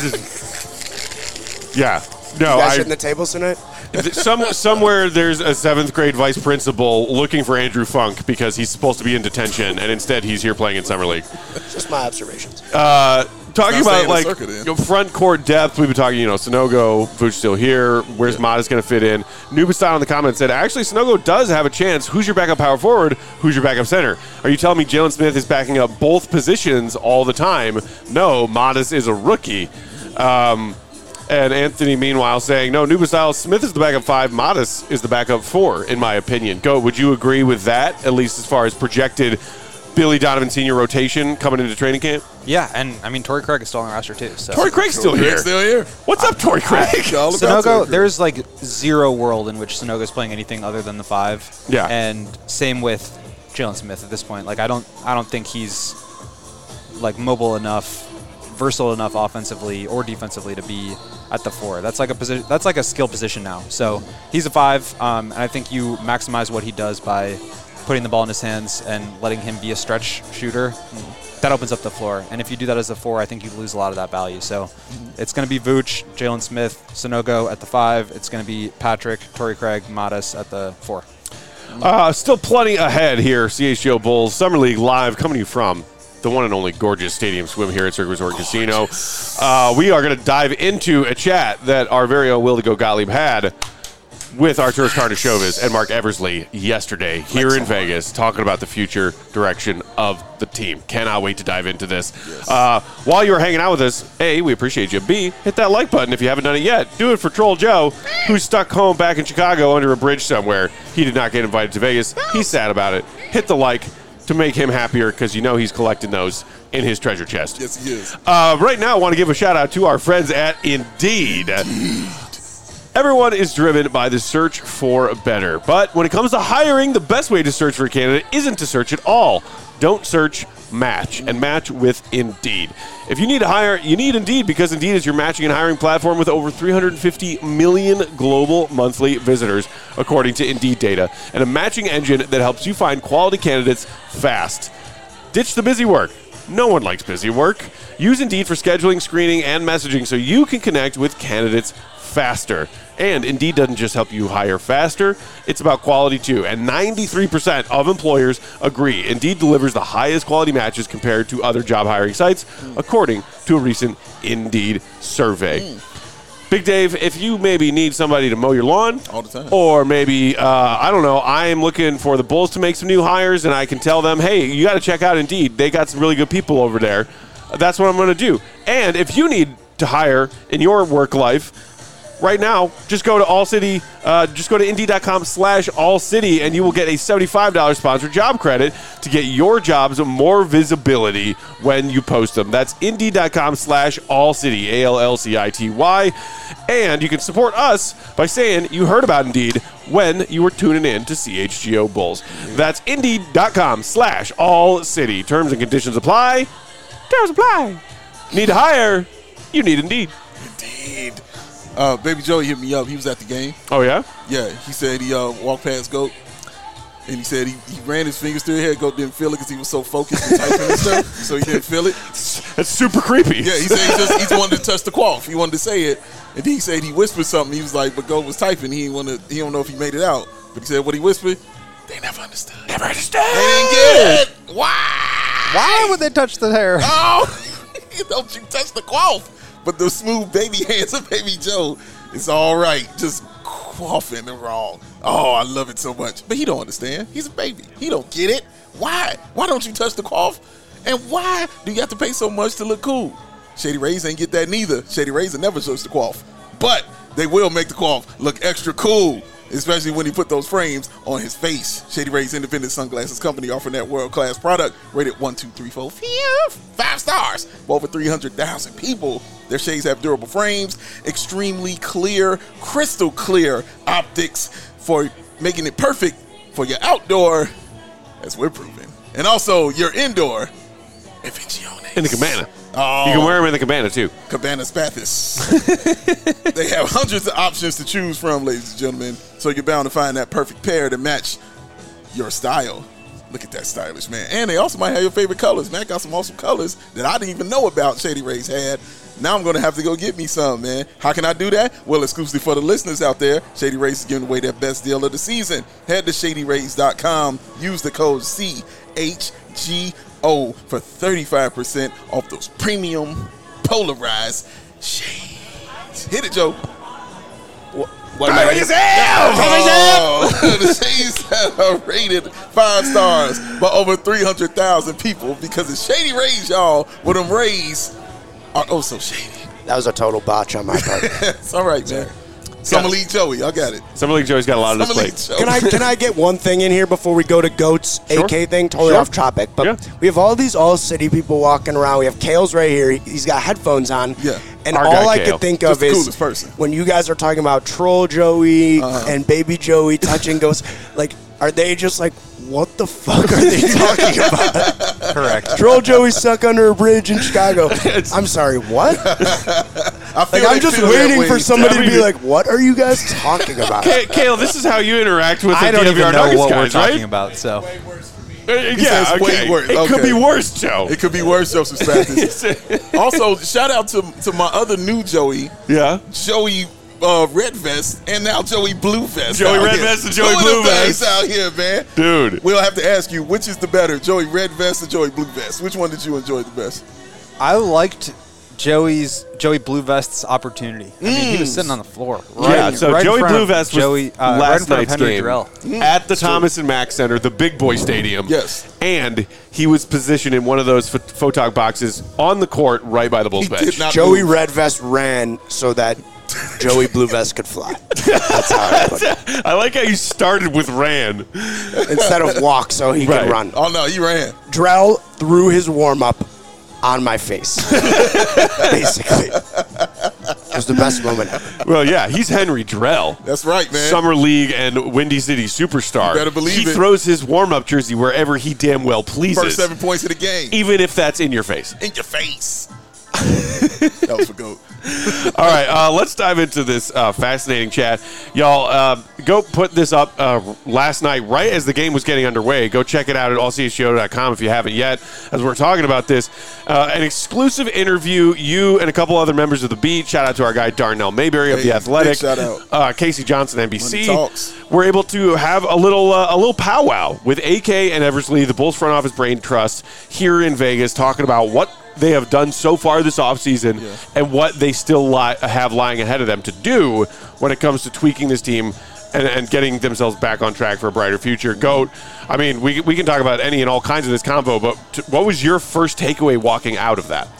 Yeah. No, You guys I, hitting the tables tonight?" th- some, somewhere there's a seventh grade vice principal looking for Andrew Funk because he's supposed to be in detention, and instead he's here playing in summer league. Just my observations. Uh, talking It's not about staying in like the circuit, then. you know, front court depth, we've been talking. You know, Sonogo, Vooch still here. Where's Yeah. Modest going to fit in? Nubastyle in the comments said, actually, Sonogo does have a chance. Who's your backup power forward? Who's your backup center? Are you telling me Jalen Smith is backing up both positions all the time? No, Modest is a rookie. Um, And Anthony, meanwhile, saying, no, Nubastyle, Smith is the backup five, Modest is the backup four, in my opinion. Go, would you agree with that, at least as far as projected Billy Donovan Senior rotation coming into training camp? Yeah, and I mean, Torrey Craig is still on the roster too. So Torrey Craig's still Craig's here. still here. What's up, Torrey Craig? All about Torrey Sonogo, Craig. there's like zero world in which Sonogo is playing anything other than the five. Yeah. And same with Jalen Smith at this point. Like I don't, I don't think he's like mobile enough, versatile enough offensively or defensively to be at the four. That's like a position. That's like a skill position now. So he's a five, um, and I think you maximize what he does by putting the ball in his hands and letting him be a stretch shooter. That opens up the floor. And if you do that as a four, I think you lose a lot of that value. So it's going to be Vooch, Jalen Smith, Sonogo at the five. It's going to be Patrick, Torrey Craig, Modest at the four. Uh, still plenty ahead here, C H G O Bulls Summer League Live, coming to you from the one and only gorgeous Stadium Swim here at Cirque Resort Casino. Uh, we are going to dive into a chat that our very own Will to Go Gottlieb had with Arturas Karnisovas and Mark Eversley yesterday here in Vegas, talking about the future direction of the team. Cannot wait to dive into this. Yes. Uh, while you were hanging out with us, A, we appreciate you. B, hit that like button if you haven't done it yet. Do it for Troll Joe, who's stuck home back in Chicago under a bridge somewhere. He did not get invited to Vegas. He's sad about it. Hit the like to make him happier because you know he's collecting those in his treasure chest. Yes, he is. Uh, right now, I want to give a shout out to our friends at Indeed. Indeed. Everyone is driven by the search for better. But when it comes to hiring, the best way to search for a candidate isn't to search at all. Don't search, match, and match with Indeed. If you need to hire, you need Indeed because Indeed is your matching and hiring platform with over three hundred fifty million global monthly visitors, according to Indeed data, and a matching engine that helps you find quality candidates fast. Ditch the busy work. No one likes busy work. Use Indeed for scheduling, screening, and messaging so you can connect with candidates faster. And Indeed doesn't just help you hire faster, it's about quality too. And ninety-three percent of employers agree Indeed delivers the highest quality matches compared to other job hiring sites, mm. according to a recent Indeed survey. Mm. Big Dave, if you maybe need somebody to mow your lawn, all the time, or maybe, uh, I don't know, I'm looking for the Bulls to make some new hires and I can tell them, hey, you got to check out Indeed. They got some really good people over there. That's what I'm going to do. And if you need to hire in your work life, right now, just go to All City, uh, just go to Indeed.com slash All City, and you will get a seventy-five dollars sponsored job credit to get your jobs more visibility when you post them. That's Indeed.com slash All City, A L L C I T Y. And you can support us by saying you heard about Indeed when you were tuning in to C H G O Bulls. That's Indeed.com slash All City. Terms and conditions apply. Terms apply. Need to hire? You need Indeed. Indeed. Uh, Baby Joey hit me up. He was at the game. Oh, yeah? Yeah. He said he uh, walked past Goat, and he said he, he ran his fingers through his hair. Goat didn't feel it because he was so focused and typing and stuff, so he didn't feel it. That's super creepy. Yeah, he said he just, he just wanted to touch the quaff. He wanted to say it, and then he said he whispered something. He was like, but Goat was typing. He didn't want to. He don't know if he made it out. But he said what he whispered, they never understood. Never understood. They didn't get it. Why? Why would they touch the hair? Oh, don't you touch the quaff. But the smooth baby hands of Baby Joe, it's all right. Just quaffing and wrong. Oh, I love it so much. But he don't understand. He's a baby. He don't get it. Why? Why don't you touch the quaff? And why do you have to pay so much to look cool? Shady Rays ain't get that neither. Shady Rays will never touch the quaff. But they will make the quaff look extra cool, especially when he put those frames on his face. Shady Rays Independent Sunglasses Company offering that world-class product rated one, two, three, four, five stars for over three hundred thousand people. Their shades have durable frames, extremely clear, crystal clear optics for making it perfect for your outdoor, as we're proving, and also your indoor Invenciones. In the cabana. Oh, you can wear them in the cabana, too. Cabana Spathis. They have hundreds of options to choose from, ladies and gentlemen, so you're bound to find that perfect pair to match your style. Look at that stylish, man. And they also might have your favorite colors. Man, got some awesome colors that I didn't even know about Shady Rays had. Now I'm going to have to go get me some, man. How can I do that? Well, exclusively for the listeners out there, Shady Rays is giving away their best deal of the season. Head to Shady Rays dot com. Use the code C H G O for thirty-five percent off those premium polarized shades. Hit it, Joe. What? What am I Cover yourself! Oh, the shades are rated five stars by over three hundred thousand people because it's Shady Rays, y'all. With them Rays are oh so shady. That was a total botch on my part. It's all right, man. Summer League Joey, I got it. Summer League Joey's got a lot on his plate. Can I can I get one thing in here before we go to Goat's Sure. A K thing? Totally Sure. off topic, but Yeah. we have all these all city people walking around. We have Kale's right here. He's got headphones on. Yeah. And Our all guy I Kale. could think Just of the is coolest person. when you guys are talking about Troll Joey Uh-huh. and Baby Joey touching Ghosts, like, are they just like, what the fuck are they talking about? Correct. Troll Joey stuck under a bridge in Chicago. I'm sorry, what? I feel Like, I'm they just feel that waiting way. for somebody I to mean- be like, what are you guys talking about? K- Kale, this is how you interact with the I don't D W R even know Nuggets what we're guys, talking right? about, so. Uh, yeah, says way okay. worse. It could Okay. be worse, Joe. It could be worse, Joseph Spathis. Also, shout out to to my other new Joey, yeah. Joey uh, Red Vest, and now Joey Blue Vest. Joey out Red here. Vest and Joey Two of Blue the best Vest. out here, man. Dude. We'll have to ask you, which is the better, Joey Red Vest or Joey Blue Vest? Which one did you enjoy the best? I liked Joey's Joey Blue Vest's opportunity. I mean, he was sitting on the floor. Right, yeah, so right Joey in front Blue of Vest was Joey, uh, right last in front of night's Henry game Durrell. at the Thomas and Mack Center, the big boy stadium. Yes. And he was positioned in one of those ph- photog boxes on the court right by the Bulls He bench. did not Joey move. Red Vest ran so that Joey Blue Vest could fly. That's how I put it. I like how you started with ran. Instead of walk so he Right. could run. Oh, no, he ran. Drell threw his warm-up on my face. Basically. It was the best moment ever. Well, yeah, he's Henry Drell. That's right, man. Summer League and Windy City superstar. You better believe he it. throws his warm-up jersey wherever he damn well pleases. First seven points of the game. Even if that's in your face. In your face. That was for GOAT. All right, uh, let's dive into this uh, fascinating chat. Y'all, uh, go put this up uh, last night right as the game was getting underway. Go check it out at all c s g o dot com if you haven't yet. As we're talking about this, uh, an exclusive interview, you and a couple other members of the beat, shout out to our guy Darnell Mayberry of Hey, The Athletic, big shout out. Uh, Casey Johnson, N B C. Money talks. We're able to have a little uh, a little powwow with A K and Eversley, the Bulls front office brain trust, here in Vegas, talking about what they have done so far this offseason Yeah. and what they still li- have lying ahead of them to do when it comes to tweaking this team and, and getting themselves back on track for a brighter future. GOAT, I mean, we, we can talk about any and all kinds of this convo, but t- what was your first takeaway walking out of that?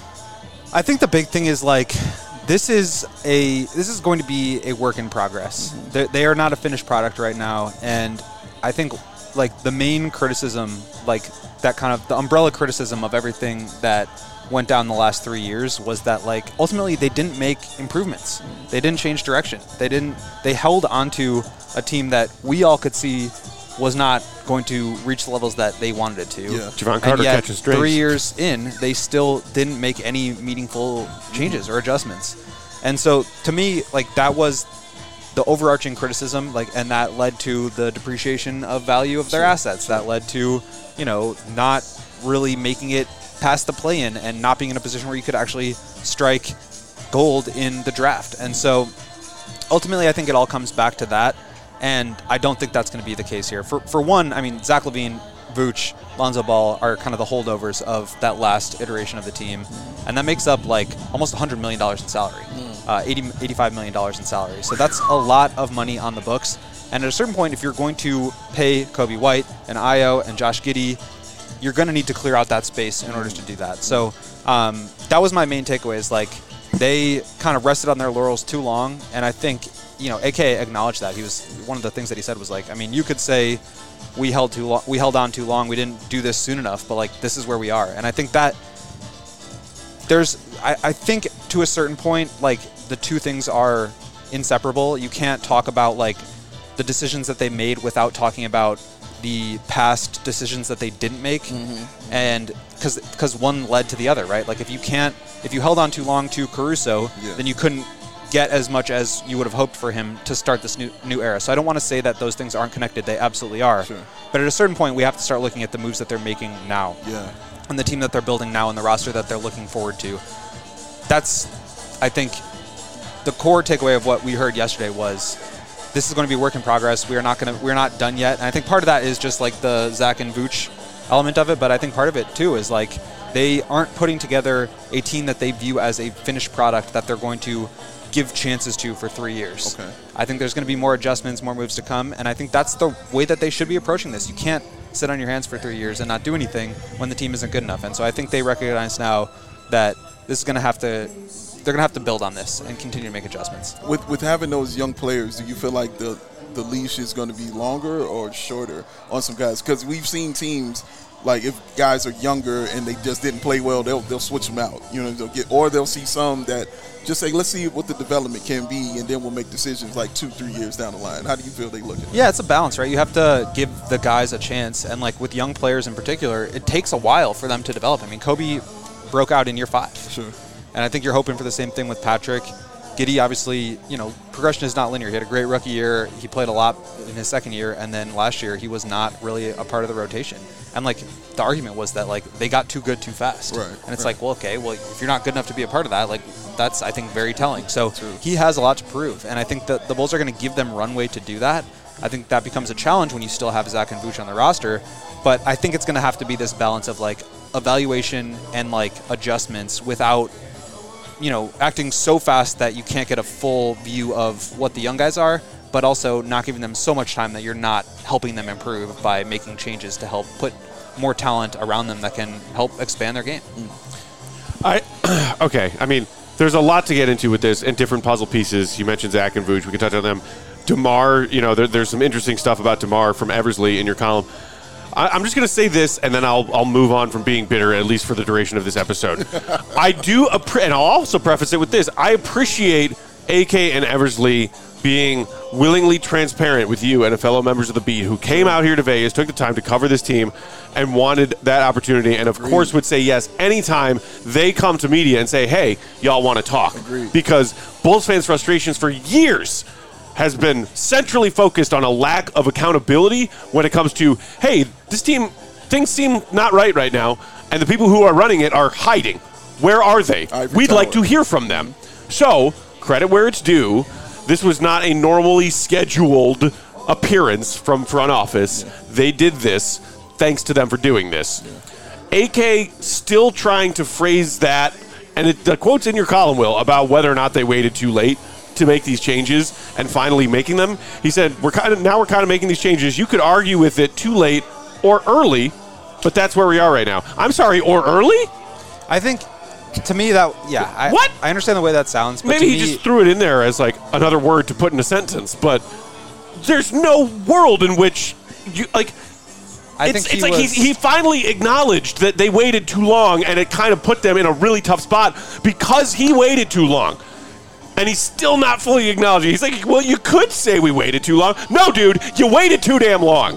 I think the big thing is like this is a this is going to be a work in progress. They, they are not a finished product right now, and I think like the main criticism, like that kind of the umbrella criticism of everything that went down the last three years was that like ultimately they didn't make improvements. They didn't change direction. They didn't. They held onto a team that we all could see was not going to reach the levels that they wanted it to. Yeah. Javon And Carter yet, catching strings. three years in, they still didn't make any meaningful changes or adjustments. And so, to me, like that was the overarching criticism, like, and that led to the depreciation of value of their assets. That led to, you know, not really making it past the play-in and not being in a position where you could actually strike gold in the draft. And so, ultimately, I think it all comes back to that. And I don't think that's going to be the case here. For for one, I mean, Zach LaVine, Vooch, Lonzo Ball are kind of the holdovers of that last iteration of the team. And that makes up like almost one hundred million dollars in salary, uh, eighty, eighty-five million dollars in salary. So that's a lot of money on the books. And at a certain point, if you're going to pay Kobe White and Ayo and Josh Giddey, you're going to need to clear out that space in order to do that. So um, that was my main takeaway is like they kind of rested on their laurels too long. And I think, you know, A K acknowledged that. He was one of the things that he said was like, I mean, you could say we held too long, we held on too long, we didn't do this soon enough, but like this is where we are. And I think that there's, I, I think to a certain point, like the two things are inseparable. You can't talk about like the decisions that they made without talking about the past decisions that they didn't make, mm-hmm. and because because one led to the other, right? Like if you can't, if you held on too long to Caruso, Yeah. then you couldn't get as much as you would have hoped for him to start this new new era. So I don't want to say that those things aren't connected. They absolutely are. Sure. But at a certain point, we have to start looking at the moves that they're making now, Yeah. and the team that they're building now, and the roster that they're looking forward to. That's, I think, the core takeaway of what we heard yesterday was this is going to be a work in progress. We are not going to we're not done yet. And I think part of that is just like the Zach and Vooch element of it, but I think part of it too is like they aren't putting together a team that they view as a finished product that they're going to give chances to for three years. Okay. I think there's going to be more adjustments, more moves to come, and I think that's the way that they should be approaching this. You can't sit on your hands for three years and not do anything when the team isn't good enough. And so I think they recognize now that this is going to have to they're going to have to build on this and continue to make adjustments. With with having those young players, do you feel like the the leash is going to be longer or shorter on some guys? Because we've seen teams like if guys are younger and they just didn't play well, they'll they'll switch them out. You know, they'll get or they'll see some that just say, let's see what the development can be, and then we'll make decisions like two, three years down the line. How do you feel they look at it? Yeah, it's a balance, right? You have to give the guys a chance, and like with young players in particular, it takes a while for them to develop. I mean, Kobe broke out in year five. Sure. And I think you're hoping for the same thing with Patrick. Giddey, obviously, you know, progression is not linear. He had a great rookie year. He played a lot in his second year. And then last year, he was not really a part of the rotation. And, like, the argument was that, like, they got too good too fast. Right, and it's right. like, well, okay, well, if you're not good enough to be a part of that, like, that's, I think, very telling. So True. he has a lot to prove. And I think that the Bulls are going to give them runway to do that. I think that becomes a challenge when you still have Zach and Vooch on the roster. But I think it's going to have to be this balance of, like, evaluation and, like, adjustments without you know, acting so fast that you can't get a full view of what the young guys are, but also not giving them so much time that you're not helping them improve by making changes to help put more talent around them that can help expand their game. I okay. I mean, there's a lot to get into with this and different puzzle pieces. You mentioned Zach and Vooch. We can touch on them. DeMar, you know, there, there's some interesting stuff about DeMar from Eversley in your column. I, I'm just going to say this, and then I'll I'll move on from being bitter, at least for the duration of this episode. I do, appre- and I'll also preface it with this. I appreciate A K and Eversley being willingly transparent with you and fellow members of the beat who came out here to Vegas, took the time to cover this team, and wanted that opportunity, and of Agreed. course would say yes anytime they come to media and say, hey, y'all want to talk. Agreed. Because Bulls fans' frustrations for years has been centrally focused on a lack of accountability when it comes to, hey, this team, things seem not right right now, and the people who are running it are hiding. Where are they? Ivory We'd Tower. like to hear from them. So, credit where it's due. This was not a normally scheduled appearance from front office. Yeah. They did this. Thanks to them for doing this. Yeah. A K still trying to phrase that, and it, the quote's in your column, Will, about whether or not they waited too late to make these changes and finally making them. He said, "We're kind of now we're kind of making these changes. You could argue with it too late or early, but that's where we are right now." I'm sorry, or early? I think. To me, that, yeah. I, what? I understand the way that sounds. But Maybe to he me, just threw it in there as like another word to put in a sentence, but there's no world in which you, like, I it's, think it's he like was, he, he finally acknowledged that they waited too long, and it kind of put them in a really tough spot because he waited too long. And he's still not fully acknowledging. He's like, well, you could say we waited too long. No, dude, you waited too damn long.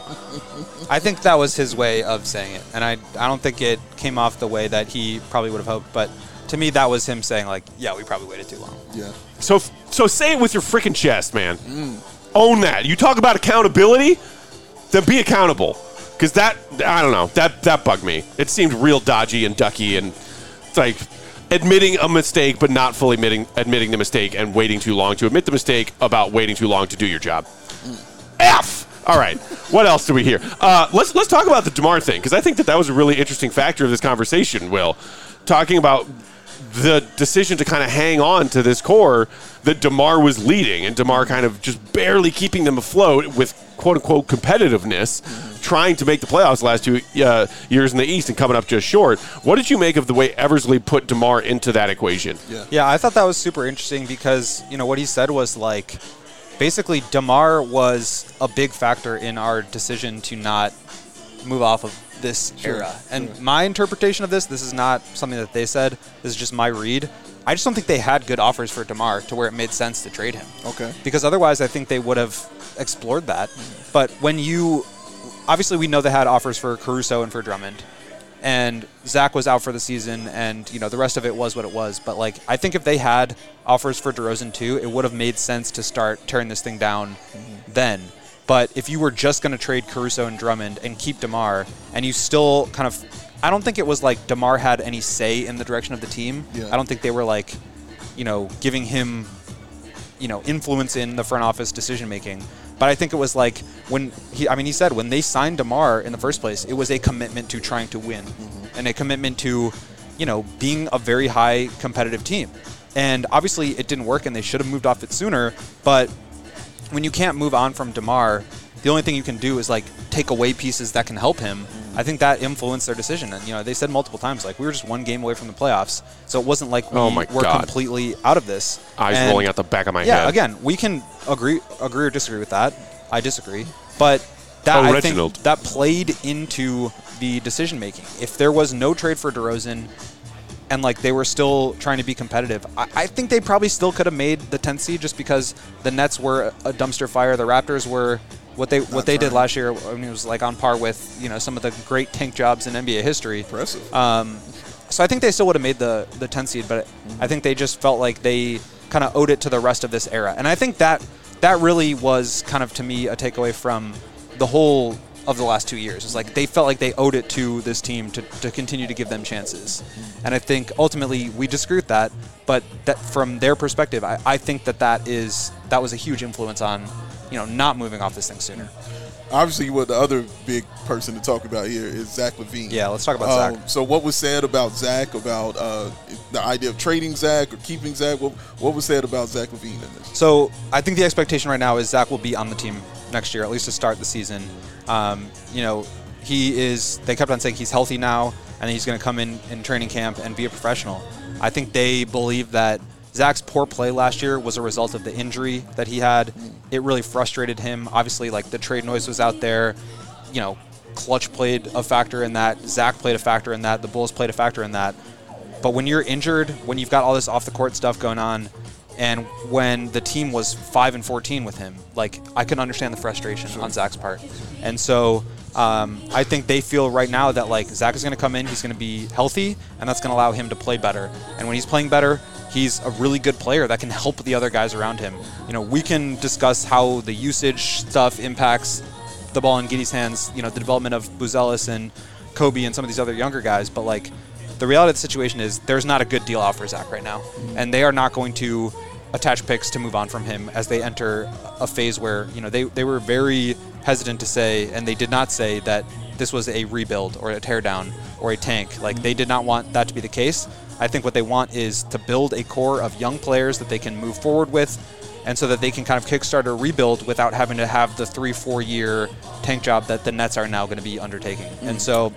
I think that was his way of saying it, and I I don't think it came off the way that he probably would have hoped, but to me, that was him saying, like, yeah, we probably waited too long. Yeah. So so say it with your freaking chest, man. Mm. Own that. You talk about accountability, then be accountable. Because that, I don't know, that, that bugged me. It seemed real dodgy and ducky, and it's like admitting a mistake but not fully admitting, admitting the mistake and waiting too long to admit the mistake about waiting too long to do your job. Mm. F! All right. What else do we hear? Uh, let's let's talk about the DeMar thing, because I think that that was a really interesting factor of this conversation, Will. Talking about the decision to kind of hang on to this core that DeMar was leading, and DeMar kind of just barely keeping them afloat with quote-unquote competitiveness, mm-hmm. trying to make the playoffs the last two uh, years in the East and coming up just short. What did you make of the way Eversley put DeMar into that equation? Yeah, yeah I thought that was super interesting because, you know, what he said was like, basically DeMar was a big factor in our decision to not move off of this sure, era. And sure. my interpretation of this, this is not something that they said, this is just my read. I just don't think they had good offers for DeMar to where it made sense to trade him. Okay. Because otherwise I think they would have explored that. Mm-hmm. But when you, obviously we know they had offers for Caruso and for Drummond. And Zach was out for the season, and you know the rest of it was what it was. But like, I think if they had offers for DeRozan too, it would have made sense to start tearing this thing down mm-hmm. then. But if you were just going to trade Caruso and Drummond and keep DeMar, and you still kind of, I don't think it was like DeMar had any say in the direction of the team. Yeah. I don't think they were like, you know, giving him, you know, influence in the front office decision making. But I think it was like when he, I mean, he said when they signed DeMar in the first place, it was a commitment to trying to win mm-hmm. and a commitment to, you know, being a very high competitive team. And obviously it didn't work and they should have moved off it sooner. But when you can't move on from DeMar, the only thing you can do is like take away pieces that can help him. Mm-hmm. I think that influenced their decision. And, you know, they said multiple times, like, we were just one game away from the playoffs. So it wasn't like we oh my were God. completely out of this. Eyes and rolling out the back of my yeah, head. Yeah, again, we can agree agree or disagree with that. I disagree. But that, oh, I Reginald. think that played into the decision making. If there was no trade for DeRozan and like they were still trying to be competitive, I, I think they probably still could have made the tenth seed just because the Nets were a dumpster fire. The Raptors were what they Not what they trying. did last year. I mean, it was like on par with, you know, some of the great tank jobs in N B A history. Impressive. Um, so I think they still would have made the the tenth seed, but mm-hmm. I think they just felt like they kind of owed it to the rest of this era. And I think that that really was kind of, to me, a takeaway from the whole of the last two years. It's like they felt like they owed it to this team to, to continue to give them chances. And I think ultimately we disagree with that, but that from their perspective, I, I think that that is that was a huge influence on, you know, not moving off this thing sooner. obviously, what the other big person to talk about here is Zach LaVine. Yeah, let's talk about um, Zach. So, what was said about Zach, about uh, the idea of trading Zach or keeping Zach? What, what was said about Zach LaVine in this? So, I think the expectation right now is Zach will be on the team next year, at least to start the season. Um, you know, he is. They kept on saying he's healthy now, and he's going to come in in training camp and be a professional. I think they believe that Zach's poor play last year was a result of the injury that he had. It really frustrated him. Obviously, like, the trade noise was out there. You know, Clutch played a factor in that. Zach played a factor in that. The Bulls played a factor in that. But when you're injured, when you've got all this off-the-court stuff going on, and when the team was five and fourteen with him, like, I can understand the frustration sure. on Zach's part. And so um, I think they feel right now that, like, Zach is going to come in, he's going to be healthy, and that's going to allow him to play better. And when he's playing better, he's a really good player that can help the other guys around him. You know, we can discuss how the usage stuff impacts the ball in Giddey's hands, you know, the development of Buzelis and Kobe and some of these other younger guys, but, like, the reality of the situation is there's not a good deal out for Zach right now, and they are not going to attach picks to move on from him as they enter a phase where, you know, they, they were very hesitant to say, and they did not say that this was a rebuild or a teardown or a tank. Like, they did not want that to be the case. I think what they want is to build a core of young players that they can move forward with, and so that they can kind of kickstart a rebuild without having to have the three, four-year tank job that the Nets are now going to be undertaking. Mm. And so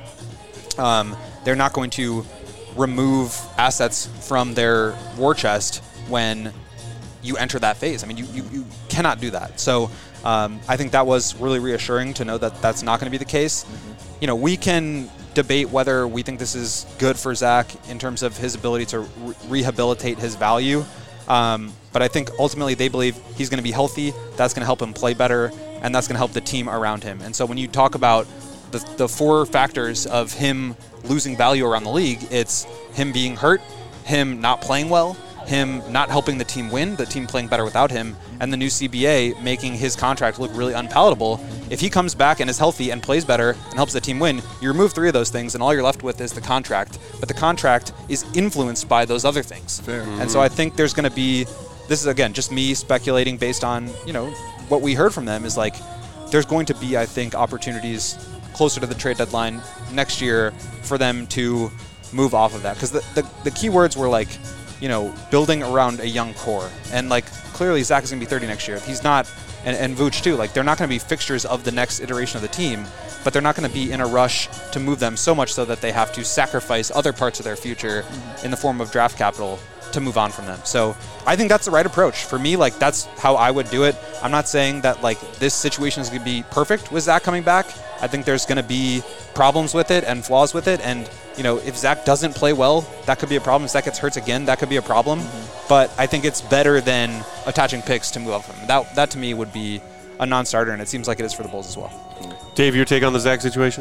um, they're not going to remove assets from their war chest when you enter that phase. I mean, you, you, you cannot do that. So um, I think that was really reassuring to know that that's not going to be the case. Mm-hmm. You know, we can debate whether we think this is good for Zach in terms of his ability to re- rehabilitate his value. Um, but I think ultimately they believe he's going to be healthy. That's going to help him play better, and that's going to help the team around him. And so when you talk about the, the four factors of him losing value around the league, it's him being hurt, him not playing well, him not helping the team win, the team playing better without him, and the new C B A making his contract look really unpalatable. If he comes back and is healthy and plays better and helps the team win, you remove three of those things, and all you're left with is the contract. But the contract is influenced by those other things. Fair. Mm-hmm. And so I think there's going to be, this is, again, just me speculating based on, you know, what we heard from them is, like, there's going to be, I think, opportunities closer to the trade deadline next year for them to move off of that. Because the, the, the key words were, like, you know, building around a young core. And, like, clearly Zach is going to be thirty next year. If he's not, and, and Vooch too, like, they're not going to be fixtures of the next iteration of the team, but they're not going to be in a rush to move them so much so that they have to sacrifice other parts of their future mm-hmm. in the form of draft capital to move on from them. So I think that's the right approach. For me, like, that's how I would do it. I'm not saying that, like, this situation is going to be perfect with Zach coming back. I think there's going to be problems with it and flaws with it. And, you know, if Zach doesn't play well, that could be a problem. If Zach gets hurt again, that could be a problem. Mm-hmm. But I think it's better than attaching picks to move off him. That, that to me would be a non-starter, and it seems like it is for the Bulls as well. Dave, your take on the Zach situation?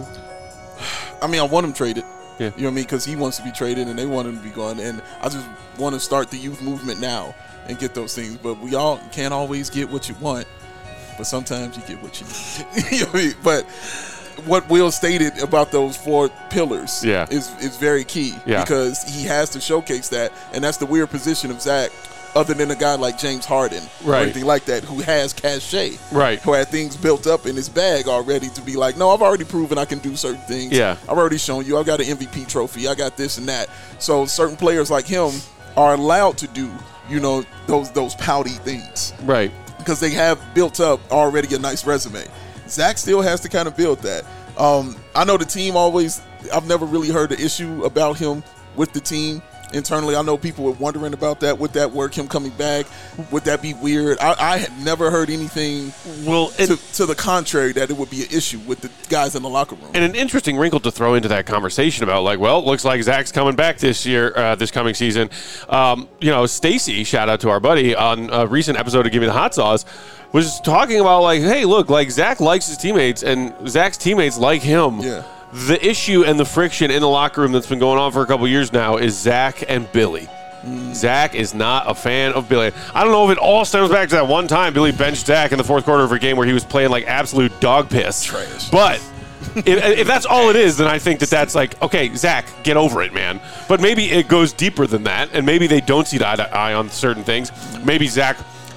I mean, I want him traded. Yeah. You know what I mean? Because he wants to be traded and they want him to be gone. And I just want to start the youth movement now and get those things. But we all can't always get what you want. But sometimes you get what you need. You know what I mean? But what Will stated about those four pillars yeah. is, is very key. Yeah. Because he has to showcase that. And that's the weird position of Zach, other than a guy like James Harden right. or anything like that, who has cachet, right. who had things built up in his bag already to be like, no, I've already proven I can do certain things. Yeah. I've already shown you. I've got an M V P trophy. I got this and that. So certain players like him are allowed to do, you know, those those pouty things. Right. Because they have built up already a nice resume. Zach still has to kind of build that. Um, I know the team always, I've never really heard the issue about him with the team. Internally, I know people were wondering about that. Would that work, him coming back? Would that be weird? I, I had never heard anything well, and, to, to the contrary that it would be an issue with the guys in the locker room. And an interesting wrinkle to throw into that conversation about, like, well, it looks like Zach's coming back this year, uh, this coming season. Um, you know, Stacy, shout out to our buddy, on a recent episode of Give Me the Hot Sauce, was talking about, like, hey, look, like, Zach likes his teammates, and Zach's teammates like him. Yeah. The issue and the friction in the locker room that's been going on for a couple years now is Zach and Billy. Mm. Zach is not a fan of Billy. I don't know if it all stems back to that one time Billy benched Zach in the fourth quarter of a game where he was playing like absolute dog piss. Trash. But if, if that's all it is, then I think that that's like, okay, Zach, get over it, man. But maybe it goes deeper than that, and maybe they don't see eye to eye on certain things. Maybe Zach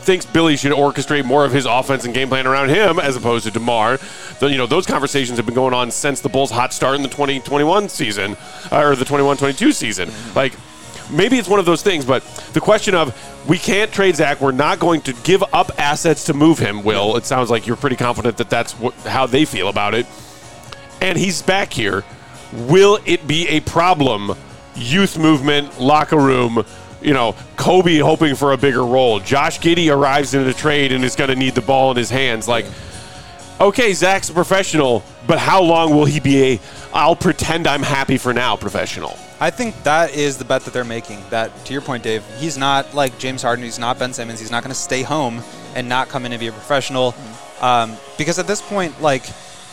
thinks Billy should orchestrate more of his offense and game plan around him as opposed to DeMar. The, you know, those conversations have been going on since the Bulls' hot start in the twenty twenty-one season, uh, or the twenty-one twenty-two season. Like, maybe it's one of those things, but the question of we can't trade Zach, we're not going to give up assets to move him, Will. It sounds like you're pretty confident that that's what, how they feel about it. And he's back here. Will it be a problem? Youth movement, locker room, you know, Kobe hoping for a bigger role. Josh Giddey arrives in a trade and is going to need the ball in his hands. Like, okay, Zach's a professional, but how long will he be a I'll pretend I'm happy for now professional? I think that is the bet that they're making. That, to your point, Dave, he's not like James Harden. He's not Ben Simmons. He's not going to stay home and not come in and be a professional. Um, because at this point, like,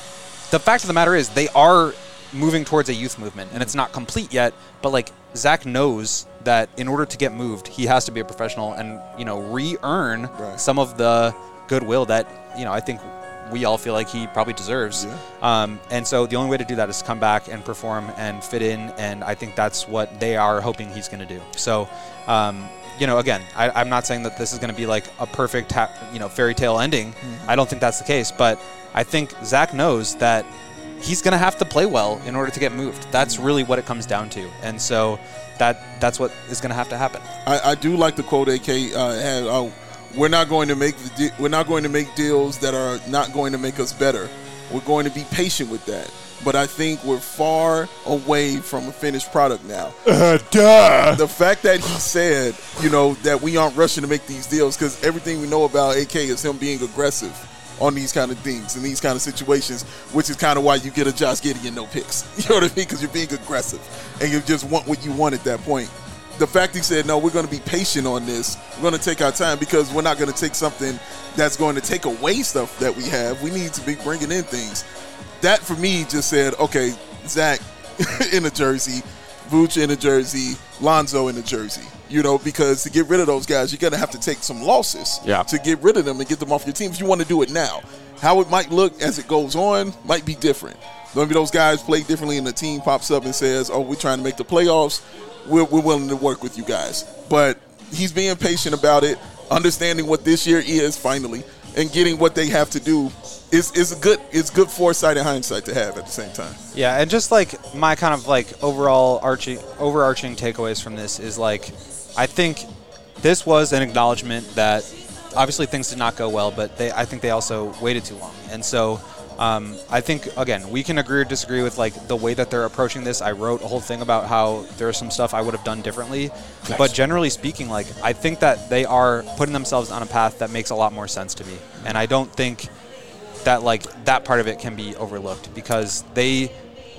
the fact of the matter is they are moving towards a youth movement, and it's not complete yet. But, like, Zach knows that in order to get moved, he has to be a professional and, you know, re-earn right. some of the goodwill that, you know, I think we all feel like he probably deserves. Yeah. Um, and so the only way to do that is to come back and perform and fit in, and I think that's what they are hoping he's going to do. So, um, you know, again, I, I'm not saying that this is going to be like a perfect, ha- you know, fairy tale ending. Mm-hmm. I don't think that's the case, but I think Zach knows that he's going to have to play well in order to get moved. That's really what it comes down to. And so that that's what is going to have to happen. I, I do like the quote A K uh, had. Uh, we're not going to make the de- we're not going to make deals that are not going to make us better. We're going to be patient with that. But I think we're far away from a finished product now. Uh, duh. The fact that he said, you know, that we aren't rushing to make these deals, because everything we know about A K is him being aggressive on these kind of things and these kind of situations, which is kind of why you get a Josh Giddey and no picks. You know what I mean? Because you're being aggressive and you just want what you want at that point. The fact he said, no, we're going to be patient on this. We're going to take our time because we're not going to take something that's going to take away stuff that we have. We need to be bringing in things. That, for me, just said, okay, Zach in a jersey, Vooch in a jersey, Lonzo in a jersey. You know, because to get rid of those guys, you're going to have to take some losses yeah. to get rid of them and get them off your team if you want to do it now. How it might look as it goes on might be different. Maybe those guys play differently and the team pops up and says, oh, we're trying to make the playoffs. We're, we're willing to work with you guys. But he's being patient about it, understanding what this year is finally, and getting what they have to do is is a good it's good foresight and hindsight to have at the same time. Yeah, and just like my kind of like overall arching overarching takeaways from this is like I think this was an acknowledgement that obviously things did not go well, but they I think they also waited too long. And so Um, I think, again, we can agree or disagree with, like, the way that they're approaching this. I wrote a whole thing about how there's some stuff I would have done differently. Nice. But generally speaking, like, I think that they are putting themselves on a path that makes a lot more sense to me. And I don't think that, like, that part of it can be overlooked because they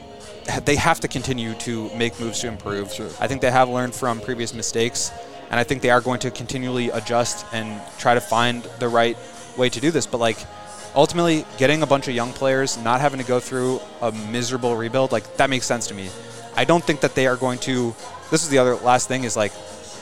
they have to continue to make moves to improve. Sure. I think they have learned from previous mistakes, and I think they are going to continually adjust and try to find the right way to do this. But, like, ultimately, getting a bunch of young players, not having to go through a miserable rebuild, like, that makes sense to me. I don't think that they are going to – this is the other last thing is, like,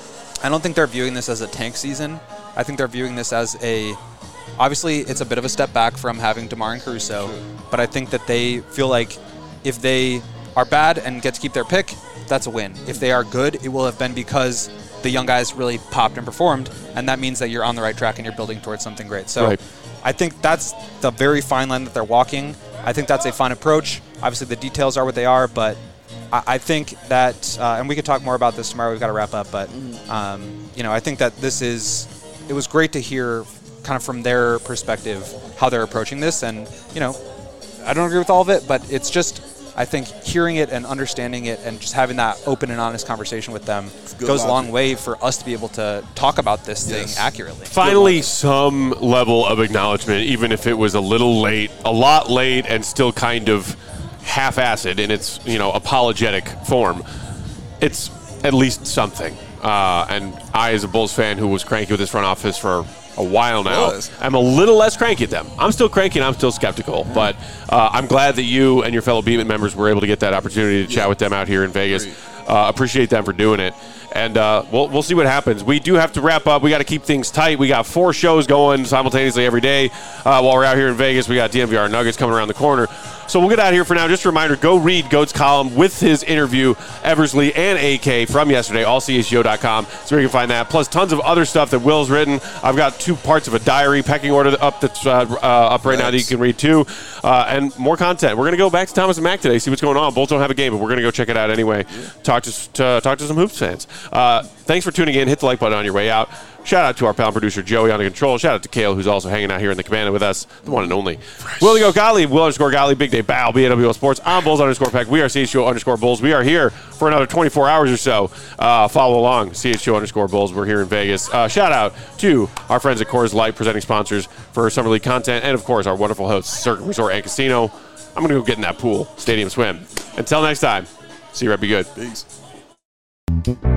I don't think they're viewing this as a tank season. I think they're viewing this as a – obviously, it's a bit of a step back from having DeMar and Caruso, but I think that they feel like if they are bad and get to keep their pick, that's a win. If they are good, it will have been because the young guys really popped and performed, and that means that you're on the right track and you're building towards something great. So right. I think that's the very fine line that they're walking. I think that's a fine approach. Obviously, the details are what they are, but I, I think that, uh, and we could talk more about this tomorrow. We've got to wrap up, but um, you know, I think that this is. It was great to hear, kind of from their perspective, how they're approaching this, and you know, I don't agree with all of it, but it's just. I think hearing it and understanding it and just having that open and honest conversation with them goes a long way for us to be able to talk about this yes. thing accurately. Finally, some level of acknowledgement, even if it was a little late, a lot late, and still kind of half-assed in its, you know, apologetic form. It's at least something. Uh, and I, as a Bulls fan who was cranky with this front office for a while now, Was. I'm a little less cranky at them. I'm still cranky and I'm still skeptical, but uh, I'm glad that you and your fellow Beatman members were able to get that opportunity to yeah. chat with them out here in Vegas. Uh, appreciate them for doing it. And uh, we'll, we'll see what happens. We do have to wrap up. We got to keep things tight. We got four shows going simultaneously every day uh, while we're out here in Vegas. We got D M V R Nuggets coming around the corner. So we'll get out of here for now. Just a reminder, go read Goat's column with his interview, Eversley and A K from yesterday, all C H G O dot com. So you can find that, plus tons of other stuff that Will's written. I've got two parts of a diary, pecking order up that's uh, uh, up right nice. now that you can read too, uh, and more content. We're going to go back to Thomas and Mack today, see what's going on. Bulls don't have a game, but we're going to go check it out anyway. Yeah. Talk to, to talk to some Hoops fans. Uh, thanks for tuning in. Hit the like button on your way out. Shout out to our pal producer Joey on the control. Shout out to Kale, who's also hanging out here in the cabana with us, the one and only. Will the Go Gottlieb, Will underscore Gottlieb, Big Day Bow, B A W O Sports. I'm Bulls underscore Peck. We are C H G O underscore Bulls. We are here for another twenty-four hours or so. Uh, follow along, C H G O underscore Bulls. We're here in Vegas. Uh, shout out to our friends at Coors Light, presenting sponsors for Summer League content, and of course our wonderful hosts, Circuit Resort and Casino. I'm going to go get in that pool, stadium swim. Until next time, see you right, be good. Peace.